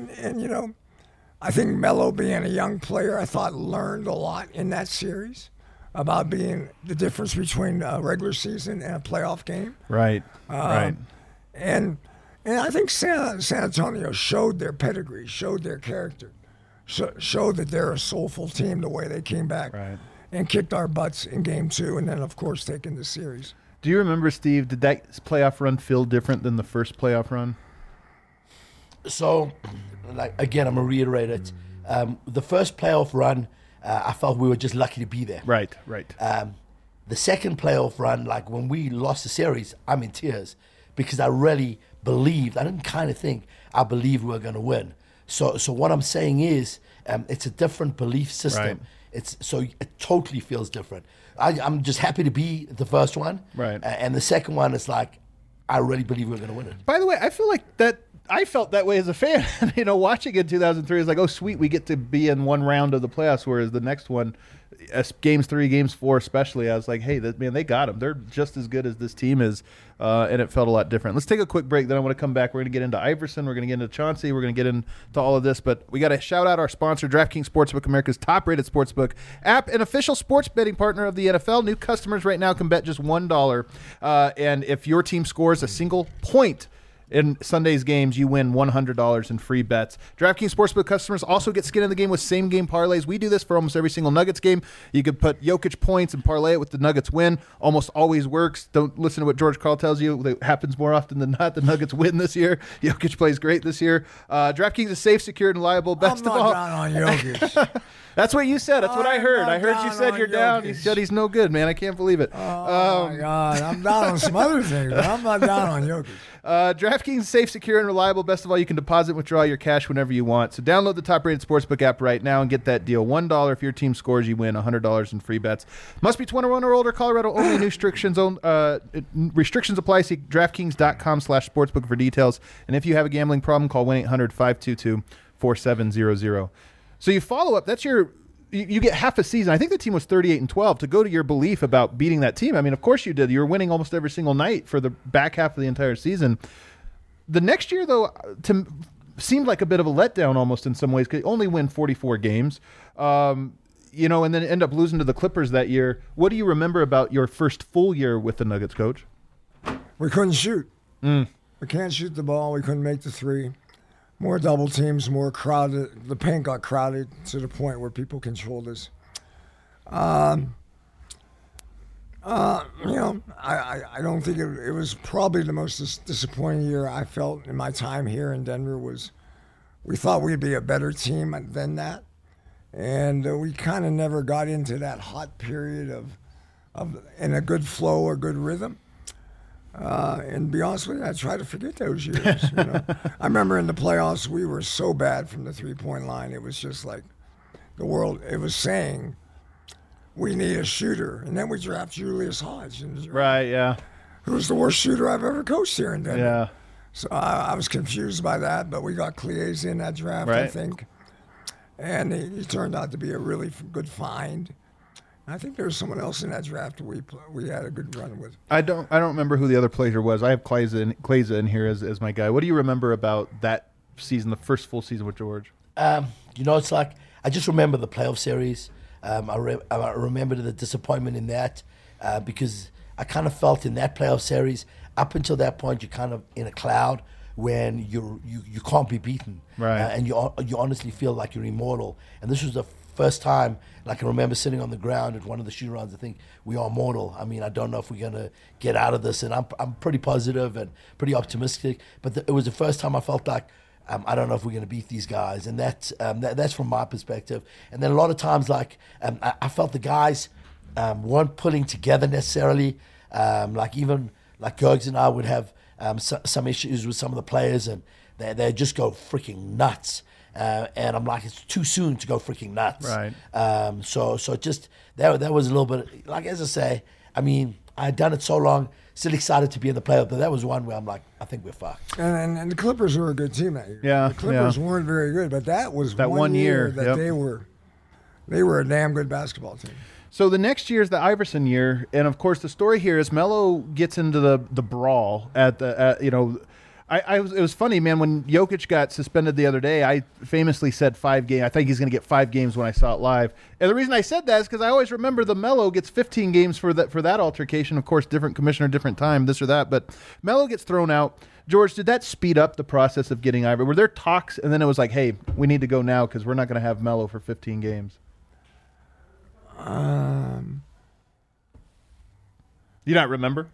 I think Melo, being a young player, I thought learned a lot in that series about being the difference between a regular season and a playoff game. Right. Right. And I think San Antonio showed their pedigree, showed their character, showed that they're a soulful team the way they came back and kicked our butts in game 2 and then, of course, taking the series. Do you remember, Steve, did that playoff run feel different than the first playoff run? So, again, I'm going to reiterate it. The first playoff run, I felt we were just lucky to be there. Right. The second playoff run, when we lost the series, I'm in tears because I really believed, I didn't kind of think, I believed we were going to win. So what I'm saying is, it's a different belief system. Right. So it totally feels different. I'm just happy to be the first one. Right. And the second one is I really believe we're going to win it. By the way, I feel like that. I felt that way as a fan. Watching in 2003 is like, oh, sweet, we get to be in one round of the playoffs, whereas the next one, games 3, games 4 especially, I was like, hey, they got them. They're just as good as this team is, and it felt a lot different. Let's take a quick break, then I want to come back. We're going to get into Iverson. We're going to get into Chauncey. We're going to get into all of this, but we got to shout out our sponsor, DraftKings Sportsbook, America's top-rated sportsbook app, an official sports betting partner of the NFL. New customers right now can bet just $1, and if your team scores a single point in Sunday's games, you win $100 in free bets. DraftKings Sportsbook customers also get skin in the game with same-game parlays. We do this for almost every single Nuggets game. You could put Jokic points and parlay it with the Nuggets win. Almost always works. Don't listen to what George Karl tells you. It happens more often than not. The Nuggets win this year. Jokic plays great this year. DraftKings is safe, secure, and reliable. Best I'm of all. not down on Jokic. That's what you said. That's what I heard. I heard you said you're down. Jokic. You said he's no good, man. I can't believe it. Oh, my God. I'm down on some other things, but I'm not down on Jokic. DraftKings is safe, secure, and reliable. Best of all, you can deposit and withdraw your cash whenever you want. So download the top-rated sportsbook app right now and get that deal. $1 if your team scores, you win $100 in free bets. Must be 21 or older. Colorado only. New restrictions apply. See DraftKings.com/sportsbook for details. And if you have a gambling problem, call 1-800-522-4700. So you follow up. That's you get half a season. I think the team was 38-12 to go to your belief about beating that team. I mean, of course you did. You were winning almost every single night for the back half of the entire season. The next year, though, seemed like a bit of a letdown almost in some ways because you only win 44 games, and then end up losing to the Clippers that year. What do you remember about your first full year with the Nuggets, Coach? We couldn't shoot. We can't shoot the ball. We couldn't make the three. More double teams, more crowded. The paint got crowded to the point where people controlled us. I don't think it was probably the most disappointing year I felt in my time here in Denver. We thought we'd be a better team than that, and we kind of never got into that hot period of in a good flow or good rhythm. And to be honest with you, I try to forget those years. I remember in the playoffs, we were so bad from the three-point line. It was just like the world, it was saying, we need a shooter. And then we draft Julius Hodge. Right, yeah. Who's the worst shooter I've ever coached here in Denver. Yeah. So I was confused by that, but we got Cleese in that draft, I Right. think. And he turned out to be a really good find. I think there was someone else in that draft we had a good run with. I don't remember who the other player was. I have Kleza in here as my guy. What do you remember about that season, the first full season with George? It's like I just remember the playoff series. I remember the disappointment in that because I kind of felt in that playoff series up until that point you're kind of in a cloud when you can't be beaten, right? And you honestly feel like you're immortal. And this was the first time, like I remember sitting on the ground at one of the shoot rounds. I think we are mortal. I mean, I don't know if we're gonna get out of this, and I'm pretty positive and pretty optimistic. But it was the first time I felt like I don't know if we're gonna beat these guys, and that's from my perspective. And then a lot of times, like I felt the guys weren't pulling together necessarily. Like even like Gergs and I would have some issues with some of the players, and they just go freaking nuts. And I'm like, it's too soon to go freaking nuts. Right. So just that was a little bit, like, as I say, I mean, I had done it so long, still excited to be in the playoff, but that was one where I'm like, I think we're fucked. And the Clippers were a good team that year. Yeah, the Clippers weren't very good, but that was that one year that yep. they were a damn good basketball team. So the next year is the Iverson year, and of course the story here is Melo gets into the brawl at it was funny, man, when Jokic got suspended the other day. I famously said 5 games. I think he's going to get 5 games when I saw it live. And the reason I said that is because I always remember the Melo gets 15 games for that altercation. Of course, different commissioner, different time, this or that. But Melo gets thrown out. George, did that speed up the process of getting Iverson? Were there talks, and then it was like, hey, we need to go now because we're not going to have Melo for 15 games? You not remember?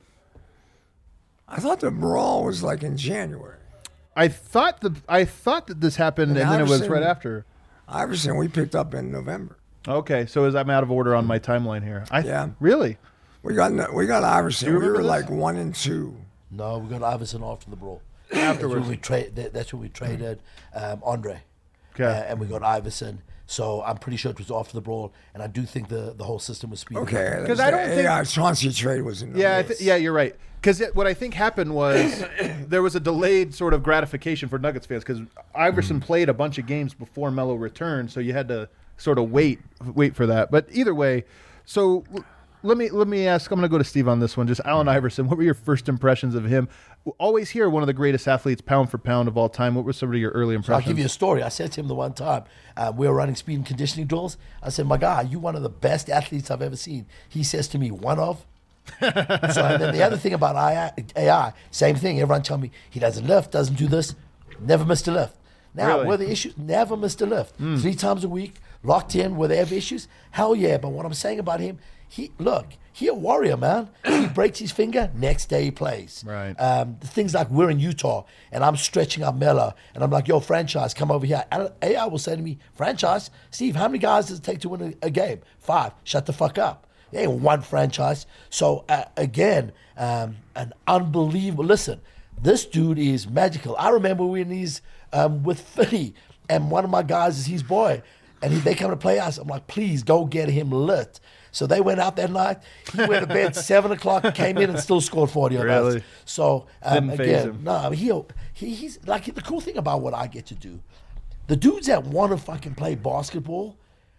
I thought the brawl was like in January. I thought that this happened, and then it was right after. Iverson, we picked up in November. Okay, so I'm out of order on my timeline here. Yeah. Really? We got Iverson. Do you We were remember like this? 1 and 2. No, we got Iverson after the brawl. Afterwards. That's when we traded Andre. Okay. And we got Iverson. So I'm pretty sure it was after the brawl, and I do think the whole system was speeding up. Okay, 'Cause I don't think- Chauncey trade was in. Yeah, you're right. Because what I think happened was there was a delayed sort of gratification for Nuggets fans because Iverson played a bunch of games before Melo returned, so you had to sort of wait for that. But either way, so let me ask. I'm going to go to Steve on this one. Just Allen Iverson. What were your first impressions of him? Always hear one of the greatest athletes, pound for pound of all time. What were some of your early So impressions? I'll give you a story. I said to him the one time, we were running speed and conditioning drills. I said, my guy, you're one of the best athletes I've ever seen. He says to me, one of. So and then the other thing about AI, same thing. Everyone tell me he doesn't lift, doesn't do this, never missed a lift. Now, Really? were the issues? Never missed a lift. 3 times a week, locked in. Were they have issues? Hell yeah. But what I'm saying about him, he a warrior, man. He breaks his finger, next day he plays. Right. The things like we're in Utah and I'm stretching up Melo and I'm like, yo, franchise, come over here. AI will say to me, franchise, Steve, how many guys does it take to win a game? 5. Shut the fuck up. There ain't one franchise. So again, an unbelievable. Listen, this dude is magical. I remember when he's with Philly, and one of my guys is his boy, and they come to play us. I'm like, please go get him lit. So they went out that night. He went to bed 7 o'clock, came in and still scored 40 on us. Really? So Didn't faze him. no, he's like the cool thing about what I get to do. The dudes that want to fucking play basketball,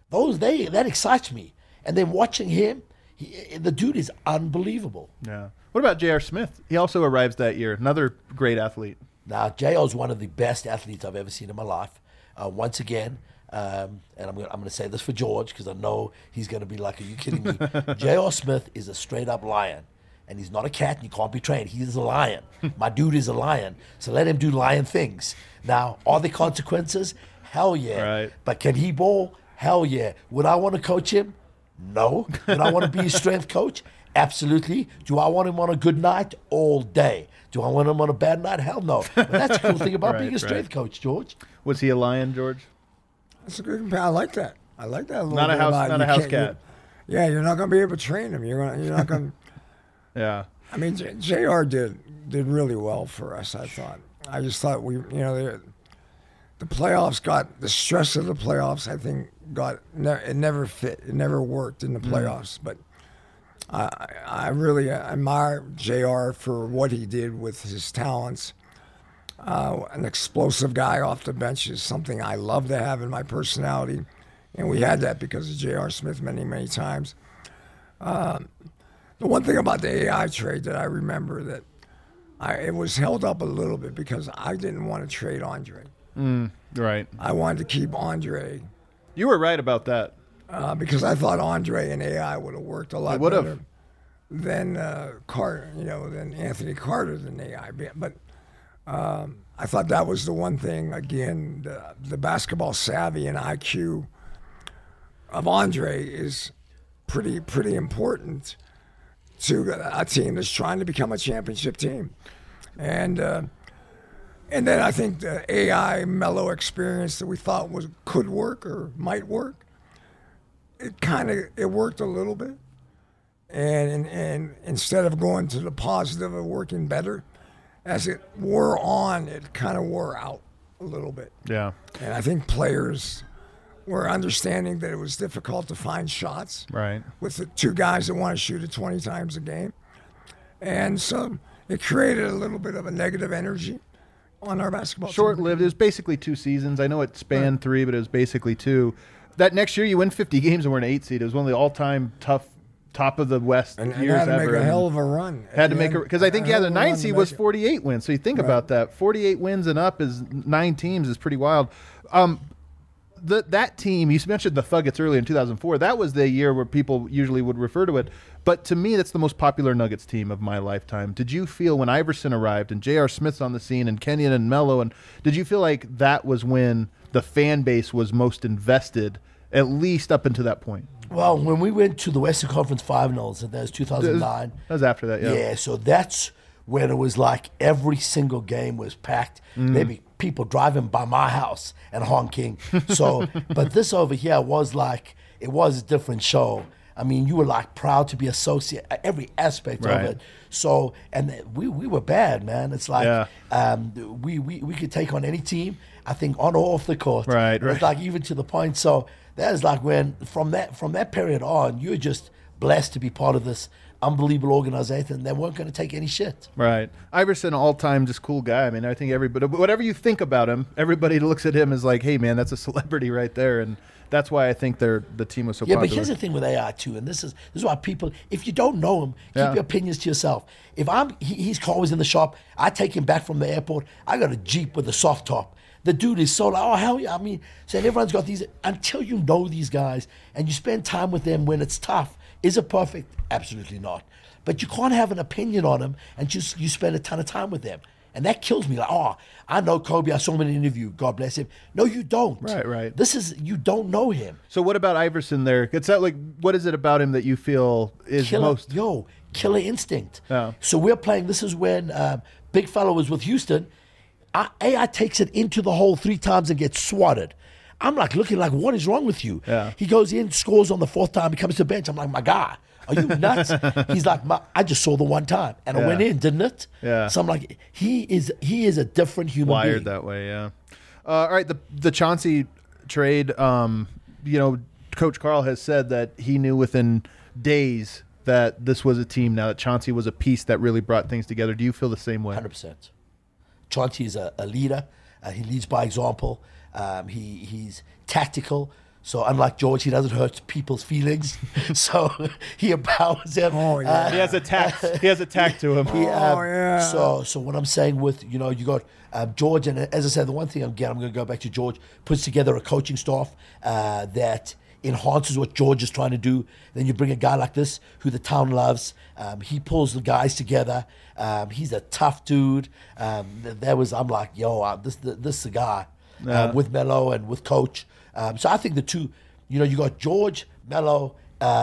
that excites me. And then watching him, the dude is unbelievable. Yeah. What about J.R. Smith? He also arrives that year. Another great athlete. Now, J.R. is one of the best athletes I've ever seen in my life. Once again, and I'm going to say this for George because I know he's going to be like, are you kidding me? J.R. Smith is a straight-up lion. And he's not a cat and he can't be trained. He is a lion. My dude is a lion. So let him do lion things. Now, are there consequences? Hell yeah. Right. But can he ball? Hell yeah. Would I want to coach him? No. Would I want to be his strength coach? Absolutely. Do I want him on a good night? All day. Do I want him on a bad night? Hell no. But that's the cool thing about being a strength coach, George. Was he a lion, George? That's a good. I like that. I like that a little Not a bit house, about not you a house can't- cat. Yeah, you're not going to be able to train him. You're not going. Yeah. I mean, Jr. did really well for us. I thought. I just thought the playoffs got the stress of the playoffs. I think it never fit. It never worked in the playoffs. But I really admire JR for what he did with his talents. An explosive guy off the bench is something I love to have in my personality. And we had that because of J.R. Smith many, many times. The one thing about the AI trade that I remember that it was held up a little bit because I didn't want to trade Andre. Right. I wanted to keep Andre. You were right about that. Because I thought Andre and AI would have worked a lot better than Carter, than Anthony Carter than AI. But I thought that was the one thing, again, the basketball savvy and IQ of Andre is pretty important to a team that's trying to become a championship team. And then I think the AI Melo experience that we thought could work or might work, it worked a little bit. And instead of going to the positive of working better, as it wore on, it kind of wore out a little bit. Yeah. And I think players were understanding that it was difficult to find shots. Right. With the two guys that want to shoot it 20 times a game. And so it created a little bit of a negative energy on our basketball team. Short-lived. It was basically 2 seasons. I know it spanned 3, but it was basically 2. That next year you win 50 games and we're an 8 seed. It was one of the all-time top of the West and years had to ever. Make a hell of a run. Had to make because I think the 9 seed was 48 wins. So you think about that, 48 wins and up is 9 teams is pretty wild. That team, you mentioned the Thuggets early in 2004. That was the year where people usually would refer to it. But to me, that's the most popular Nuggets team of my lifetime. Did you feel when Iverson arrived and J.R. Smith's on the scene and Kenyon and Melo, and did you feel like that was when the fan base was most invested, at least up until that point? Well, when we went to the Western Conference Finals, and that was 2009. That was after that, yeah. Yeah, so that's when it was like every single game was packed. Maybe people driving by my house and honking. So, but this over here was like, it was a different show. I mean, you were like proud to be associated, every aspect of it. So, and we were bad, man. It's like we could take on any team, I think, on or off the court. Right. It's like even to the point. So that is like when, from that period on, you're just blessed to be part of this unbelievable organization. They weren't going to take any shit. Right. Iverson, all-time just cool guy. I mean, I think everybody, whatever you think about him, everybody looks at him as like, hey, man, that's a celebrity right there. And that's why I think the team was so popular. Yeah, but here's the thing with AI too, and this is why people, if you don't know him, keep your opinions to yourself. If his car was in the shop, I take him back from the airport, I got a Jeep with a soft top. The dude is so like, oh, hell yeah. I mean, saying everyone's got these, until you know these guys and you spend time with them when it's tough. Is it perfect? Absolutely not. But you can't have an opinion on them and just you spend a ton of time with them. And that kills me. Like, oh, I know Kobe. I saw him in an interview. God bless him. No, you don't. Right. You don't know him. So what about Iverson there? It's that like, what is it about him that you feel is killer instinct. Yeah. So we're playing, this is when Big Fella was with Houston. AI takes it into the hole 3 times and gets swatted. I'm like looking like, what is wrong with you? Yeah. He goes in, scores on the 4th time. He comes to the bench. I'm like, my guy, are you nuts? He's like, I just saw the 1 time. And it went in, didn't it? Yeah. So I'm like, he is a different human being. Wired that way, yeah. All right, the Chauncey trade, Coach Carl has said that he knew within days that this was a team now, that Chauncey was a piece that really brought things together. Do you feel the same way? 100%. Chauncey is a leader. He leads by example. He's tactical. So unlike George, he doesn't hurt people's feelings. So he empowers them. Oh, yeah. He has a tact to him. So what I'm saying with, you got George, and as I said, the one thing I'm going to go back to George, puts together a coaching staff that enhances what George is trying to do. Then you bring a guy like this who the town loves. He pulls the guys together. He's a tough dude. I'm like, yo, this is the guy with Melo and with Coach. So I think the two, you got George, Melo,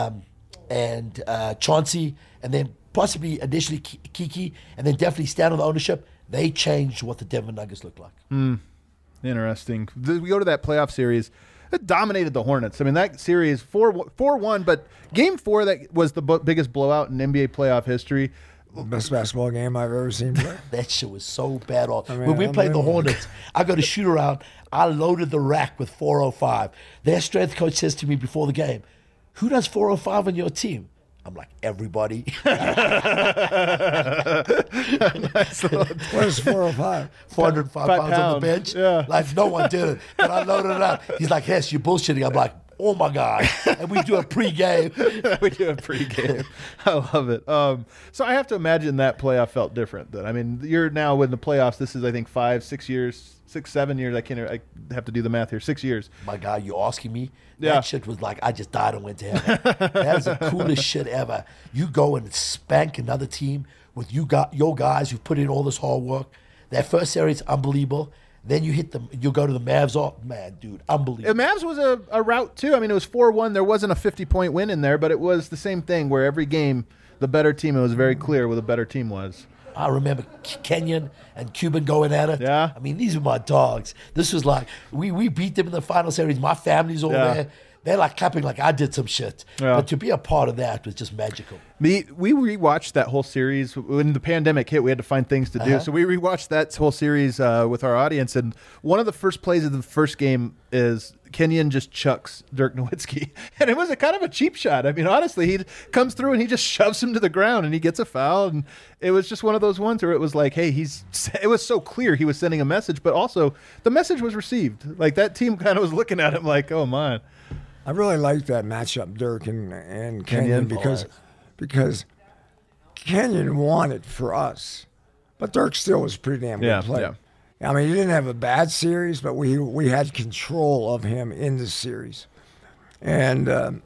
and Chauncey, and then possibly initially Kiki, and then definitely stand on the ownership. They changed what the Denver Nuggets look like. Interesting. We go to that playoff series. It dominated the Hornets. I mean, that series 4-1, but Game 4 that was the biggest blowout in NBA playoff history. Best basketball game I've ever seen play. That shit was so bad. mean, When we played the unbelievable. Hornets, I got a shoot around. I loaded the rack with 405. Their strength coach says to me before the game, "Who does 405 on your team?" I'm like, "Everybody." What is 405? 405 pounds on the pounds. bench. Yeah. Like, no one did it. But I loaded it up. He's like, "Hess, you're bullshitting." I'm like, "Oh my God." And we do a pregame. We do a pregame. I love it. So I have to imagine that playoff felt different. Then I mean, you're now in the playoffs. This is, I think, 5, 6 years, 6, 7 years. I have to do the math here. 6 years. My God, you asking me? Yeah. That shit was like, I just died and went to heaven. That is the coolest shit ever. You go and spank another team with your guys who've put in all this hard work. That first series, unbelievable. Then you hit them. You go to the Mavs. Oh man, dude, unbelievable. The Mavs was a route too. I mean, it was 4-1. There wasn't a 50-point win in there, but it was the same thing where every game, the better team. It was very clear where the better team was. I remember Kenyon and Cuban going at it. Yeah. I mean, these are my dogs. This was like, we beat them in the final series. My family's all Yeah. there. They're like clapping like I did some shit. Yeah. But to be a part of that was just magical. We rewatched that whole series when the pandemic hit. We had to find things to do, so we rewatched that whole series with our audience. And one of the first plays of the first game is Kenyon just chucks Dirk Nowitzki, and it was a kind of a cheap shot. I mean, honestly, he comes through and he just shoves him to the ground, and he gets a foul. And it was just one of those ones where it was like, hey, it was so clear he was sending a message, but also the message was received. Like that team kind of was looking at him like, oh man. I really like that matchup, Dirk and Kenyon, because Kenyon won it for us, but Dirk still was a pretty damn good player. I mean, he didn't have a bad series, but we had control of him in the series, and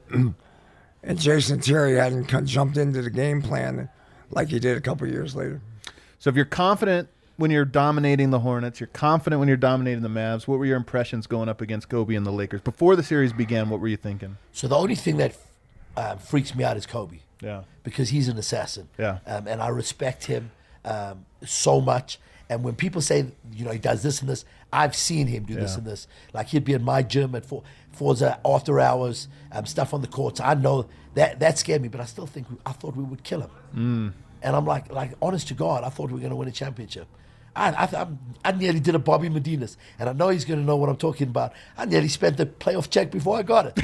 Jason Terry hadn't jumped into the game plan like he did a couple years later. So if you're confident when you're dominating the Hornets, you're confident when you're dominating the Mavs, what were your impressions going up against Kobe and the Lakers? Before the series began, what were you thinking? So the only thing that freaks me out is Kobe. Yeah. Because he's an assassin. Yeah. And I respect him so much. And when people say, he does this and this, I've seen him do this and this. Like he'd be in my gym at Forza after hours, stuff on the courts. I know that scared me, but I still thought we would kill him. And I'm like, honest to God, I thought we were going to win a championship. I nearly did a Bobby Medinas, and I know he's going to know what I'm talking about. I nearly spent the playoff check before I got it.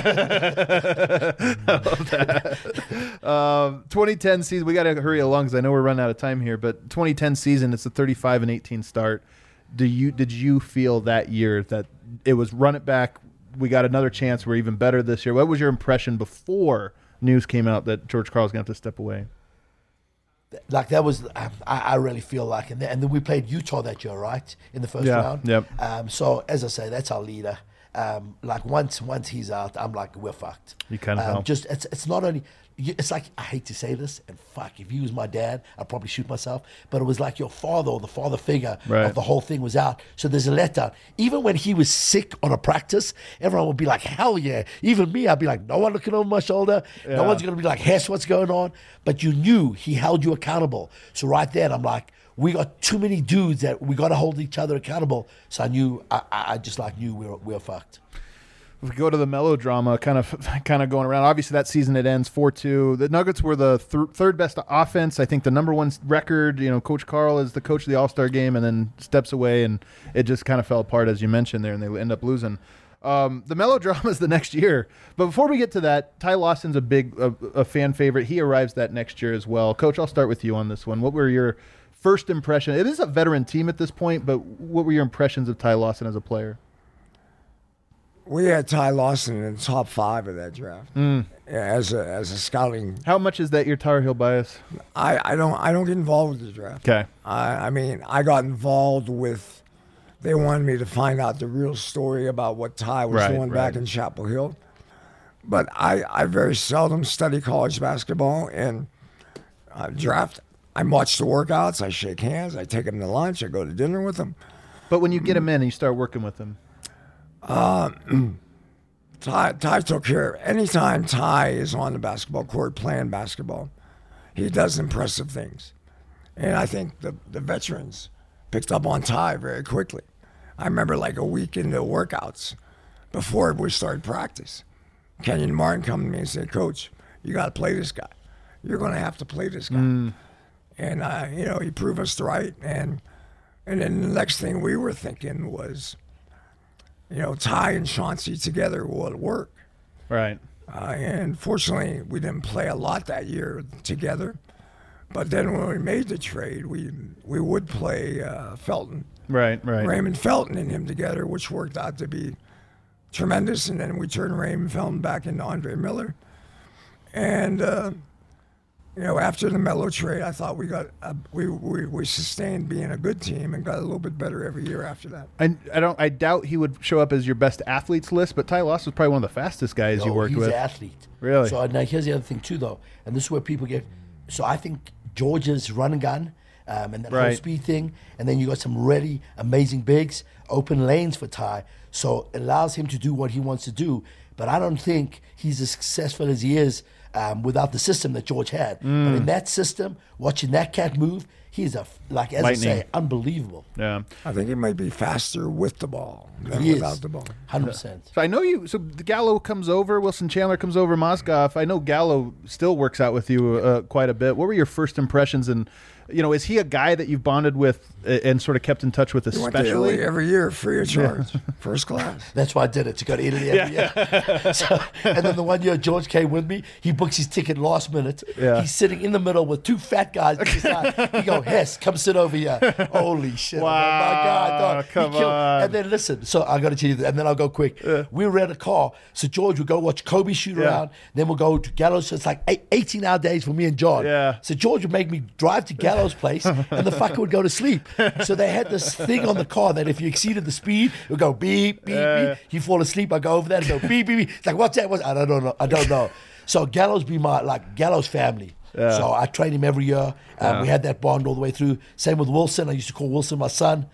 I love that. 2010 season, we got to hurry along because I know we're running out of time here, but 2010 season, it's a 35-18 start. Did you feel that year that it was run it back, we got another chance, we're even better this year? What was your impression before news came out that George Karl's going to have to step away? Like that was, I really feel like, and then we played Utah that year, right, in the first round. Yep. So as I say, that's our leader. Like once he's out, I'm like, we're fucked. You kind of help. Just it's not only. It's like, I hate to say this, and fuck, if he was my dad, I'd probably shoot myself. But it was like your father or the father figure of the whole thing was out. So there's a letdown. Even when he was sick on a practice, everyone would be like, hell yeah. Even me, I'd be like, no one looking over my shoulder. Yeah. No one's going to be like, Hess, what's going on? But you knew he held you accountable. So right then, I'm like, we got too many dudes that we got to hold each other accountable. So I knew, I just like knew we were fucked. If we go to the melodrama, kind of going around, obviously that season it ends 4-2. The Nuggets were the third best offense. I think the number one record, Coach Karl is the coach of the All-Star game and then steps away, and it just kind of fell apart, as you mentioned there, and they end up losing. The melodrama is the next year. But before we get to that, Ty Lawson's a fan favorite. He arrives that next year as well. Coach, I'll start with you on this one. What were your first impression? It is a veteran team at this point, but what were your impressions of Ty Lawson as a player? We had Ty Lawson in the top 5 of that draft as a scouting. How much is that your Tar Heel bias? I don't get involved with the draft. Okay. I mean, I got involved with. They wanted me to find out the real story about what Ty was doing back in Chapel Hill, but I very seldom study college basketball and draft. I watch the workouts. I shake hands. I take them to lunch. I go to dinner with them. But when you get him in and you start working with him. Ty took care of anytime Ty is on the basketball court playing basketball, he does impressive things. And I think the veterans picked up on Ty very quickly. I remember like a week into workouts before we started practice, Kenyon Martin come to me and said, Coach, you got to play this guy. You're going to have to play this guy. And, he proved us right. And then the next thing we were thinking was, Ty and Chauncey together will work. Right. And fortunately, we didn't play a lot that year together. But then when we made the trade, we would play Felton. Right. Raymond Felton and him together, which worked out to be tremendous. And then we turned Raymond Felton back into Andre Miller. And, after the Melo trade, I thought we sustained being a good team and got a little bit better every year after that. I doubt he would show up as your best athletes list, but Ty Loss was probably one of the fastest guys you worked with. He's an athlete. Really? So now here's the other thing too, though, and this is where people get. So I think Georgia's run and gun, and that whole speed thing, and then you got some really amazing bigs, open lanes for Ty, so it allows him to do what he wants to do. But I don't think he's as successful as he is without the system that George had. But in that system, watching that cat move, he's as Lightning. I say, unbelievable. Yeah. I think he might be faster with the ball than He without is. the ball. 100%. So I know you. So Gallo comes over. Wilson Chandler comes over. Mozgov. I know Gallo still works out with you quite a bit. What were your first impressions? And is he a guy that you've bonded with and sort of kept in touch with, He went especially? to Italy every year, free of charge, first class. That's why I did it, to go to Italy every year. So, and then the one year George came with me, he books his ticket last minute. Yeah. He's sitting in the middle with two fat guys to his side. He go, Hess, come sit over here. Holy shit. Wow, I'm like, my God, dog. come He killed. on. And then listen, so I got to tell you this, and then I'll go quick. We were at a car, so George would go watch Kobe shoot around, then we'll go to Gallows. So it's like 18-hour days for me and John. Yeah. So George would make me drive to Gallows' place, and the fucker would go to sleep. So they had this thing on the car that if you exceeded the speed, it would go beep, beep, beep. He'd fall asleep. I go over there and go beep, beep, beep. It's like, what's that? I don't know. So Gallows be my Gallows family. So I trained him every year. We had that bond all the way through. Same with Wilson. I used to call Wilson my son.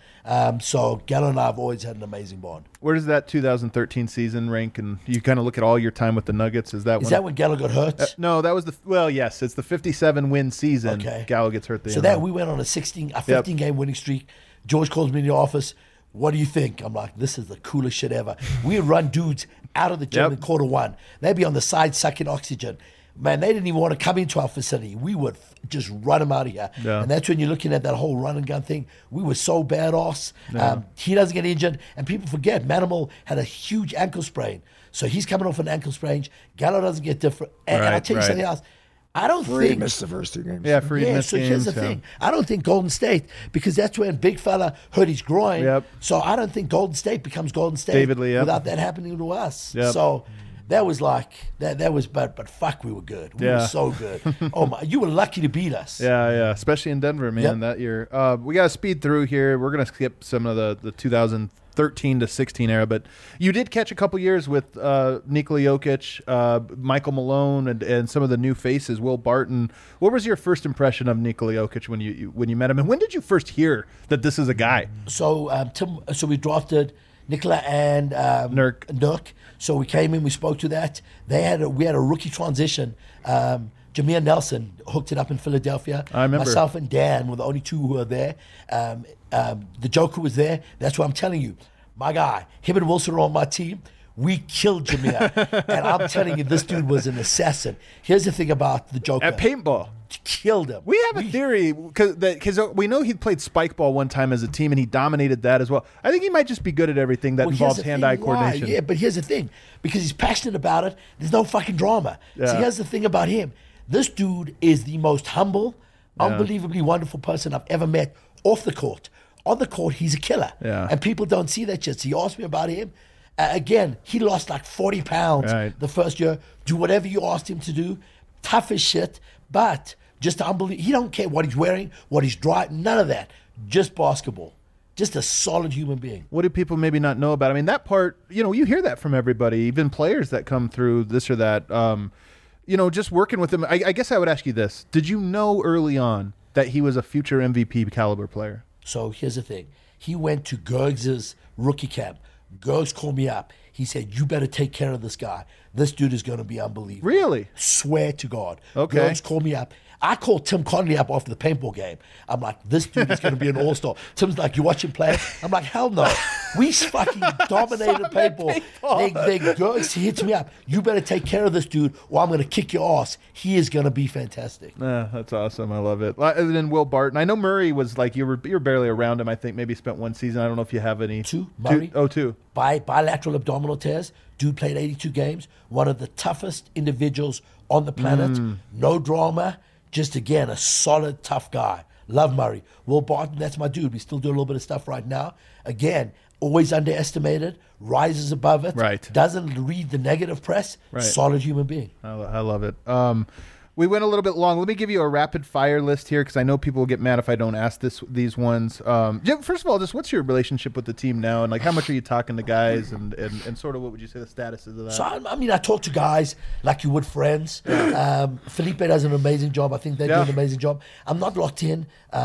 So Gallo and I have always had an amazing bond. Where does that 2013 season rank? And you kind of look at all your time with the Nuggets. Is that when Gallo got hurt? No, that was yes, it's the 57 win season. Okay. Gallo gets hurt. So that we went on a 15 game winning streak. George calls me in the office. What do you think? I'm like, this is the coolest shit ever. We'd run dudes out of the gym in quarter one. They'd be on the side sucking oxygen. Man, they didn't even want to come into our facility. We would just run them out of here. Yeah. And that's when you're looking at that whole run and gun thing. We were so badass. He doesn't get injured. And people forget, Manimal had a huge ankle sprain. So he's coming off an ankle sprain. Gallo doesn't get different. And I'll tell you something else. I don't Freed think... missed the first two games. Yeah, Freed missed so games. here's the thing. I don't think Golden State, because that's when big fella hurt his groin. Yep. So I don't think Golden State becomes Golden State David Lee, without that happening to us. Yep. So that was like, that was, but fuck, we were good. We were so good. Oh my, you were lucky to beat us. Yeah, especially in Denver, man, that year. We got to speed through here. We're going to skip some of the 2013 to 16 era, but you did catch a couple years with Nikola Jokic, Michael Malone, and some of the new faces, Will Barton. What was your first impression of Nikola Jokic when you met him, and when did you first hear that this is a guy? So so we drafted Nikola and Nurk. So we came in, we spoke to that. We had a rookie transition. Jameer Nelson hooked it up in Philadelphia. I remember. Myself and Dan were the only two who were there. The Joker was there. That's what I'm telling you. My guy, him and Wilson were on my team. We killed Jameer. And I'm telling you, this dude was an assassin. Here's the thing about the Joker. At paintball. Killed him. We have a theory, because we know he played spike ball one time as a team, and he dominated that as well. I think he might just be good at everything that involves hand-eye coordination. Yeah, but here's the thing. Because he's passionate about it, there's no fucking drama. Yeah. So here's the thing about him. This dude is the most humble, unbelievably wonderful person I've ever met off the court. On the court, he's a killer. Yeah. And people don't see that shit. So you asked me about him. Again, he lost like 40 pounds the first year. Do whatever you asked him to do. Tough as shit, but just unbelievable. He don't care what he's wearing, what he's driving, none of that. Just basketball. Just a solid human being. What do people maybe not know about? I mean, that part, you hear that from everybody, even players that come through this or that. Just working with him. I guess I would ask you this. Did you know early on that he was a future MVP caliber player? So here's the thing. He went to Gergs's rookie camp. Gergs called me up. He said, you better take care of this guy. This dude is going to be unbelievable. Really? Swear to God. Okay. Gergs called me up. I called Tim Conley up after the paintball game. I'm like, this dude is going to be an all-star. Tim's like, you watch him play? I'm like, hell no. We fucking dominated paintball. They girls hits me up. You better take care of this dude or I'm going to kick your ass. He is going to be fantastic. That's awesome. I love it. And then Will Barton. I know Murray was like, you were barely around him. I think maybe spent one season. I don't know if you have any. Murray? Two. Bilateral abdominal tears. Dude played 82 games. One of the toughest individuals on the planet. No drama. Just, again, a solid, tough guy. Love Murray. Will Barton, that's my dude. We still do a little bit of stuff right now. Again, always underestimated, rises above it, right. Doesn't read the negative press, right. Solid human being. I love it. We went a little bit long. Let me give you a rapid fire list here because I know people will get mad if I don't ask these ones. Jim, first of all, just what's your relationship with the team now, and like how much are you talking to guys, and sort of what would you say the status is of that? So I talk to guys like you would friends. Felipe does an amazing job. I think they do an amazing job. I'm not locked in.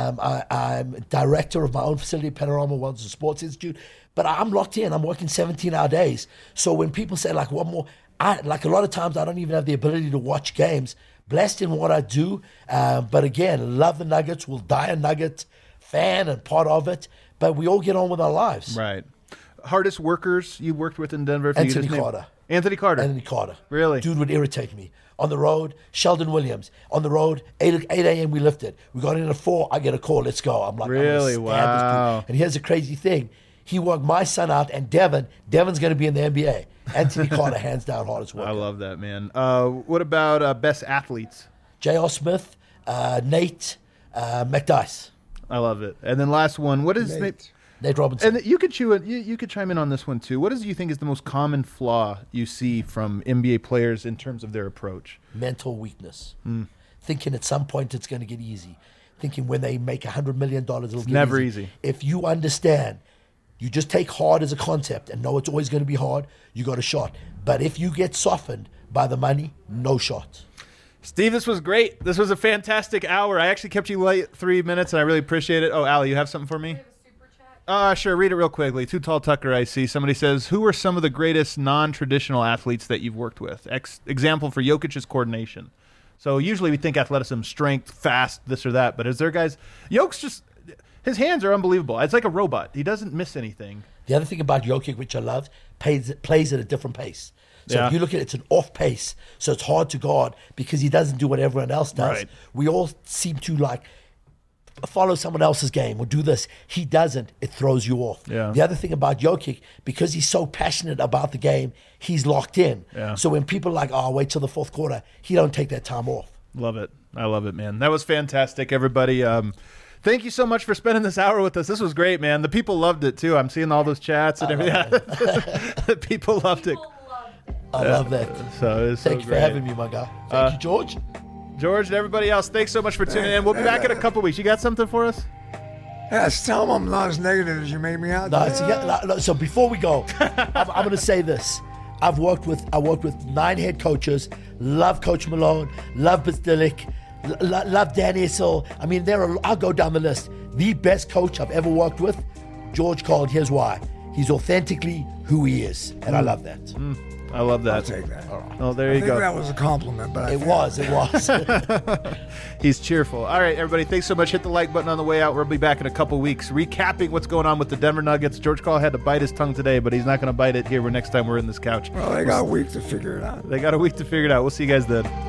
I'm director of my own facility, Panorama Wellness and Sports Institute, but I'm locked in. I'm working 17-hour days. So when people say like what more, like a lot of times I don't even have the ability to watch games. Blessed in what I do, but again, love the Nuggets. Will die a Nugget fan and part of it, but we all get on with our lives. Right. Hardest workers you worked with in Denver? Anthony Carter. Anthony Carter. Really? Dude would irritate me. On the road, Sheldon Williams. On the road, 8 a.m. we lifted. We got in at 4, I get a call, let's go. I'm like, really? I'm gonna stand this dude. And here's the crazy thing. He worked my son out and Devin's going to be in the NBA. Anthony Carter, hands down, hardest worker. I love that, man. What about best athletes? J.R. Smith, Nate, McDyess. I love it. And then last one, what is Nate Robinson. And you could you could chime in on this one too. What do you think is the most common flaw you see from NBA players in terms of their approach? Mental weakness. Thinking at some point it's going to get easy. Thinking when they make $100 million, it'll get never easy. If you understand, you just take hard as a concept and know it's always going to be hard, you got a shot. But if you get softened by the money, no shot. Steve, this was great. This was a fantastic hour. I actually kept you late 3 minutes, and I really appreciate it. Oh, Allie, you have something for me? Sure. Read it real quickly. Too Tall Tucker, I see. Somebody says, who are some of the greatest non-traditional athletes that you've worked with? Example for Jokic's coordination. So usually we think athleticism, strength, fast, this or that. But is there guys... Jokic's just... His hands are unbelievable. It's like a robot. He doesn't miss anything. The other thing about Jokic, which I love, plays at a different pace. So if you look at it, it's an off pace. So it's hard to guard because he doesn't do what everyone else does. Right. We all seem to like follow someone else's game or do this. He doesn't. It throws you off. Yeah. The other thing about Jokic, because he's so passionate about the game, he's locked in. Yeah. So when people are like, oh, wait till the fourth quarter, he don't take that time off. Love it. I love it, man. That was fantastic, everybody. Thank you so much for spending this hour with us. This was great, man. The people loved it, too. I'm seeing all those chats and everything. People loved it. I love that. So Thanks for having me, my guy. Thank you, George. George and everybody else, thanks so much for tuning in. We'll be back in a couple weeks. You got something for us? Yes, tell them I'm not as negative as you made me out. So before we go, I'm going to say this. I worked with 9 head coaches. Love Coach Malone. Love Bizdilic. Love Dan Issel. I mean, I'll go down the list. The best coach I've ever worked with, George Karl, and here's why. He's authentically who he is, and I love that. I love that. I'll take that. Oh, there you go. I think that was a compliment, but it was. He's cheerful. All right, everybody, thanks so much. Hit the like button on the way out. We'll be back in a couple weeks recapping what's going on with the Denver Nuggets. George Karl had to bite his tongue today, but he's not going to bite it here next time we're in this couch. Well, they got a week to figure it out. We'll see you guys then.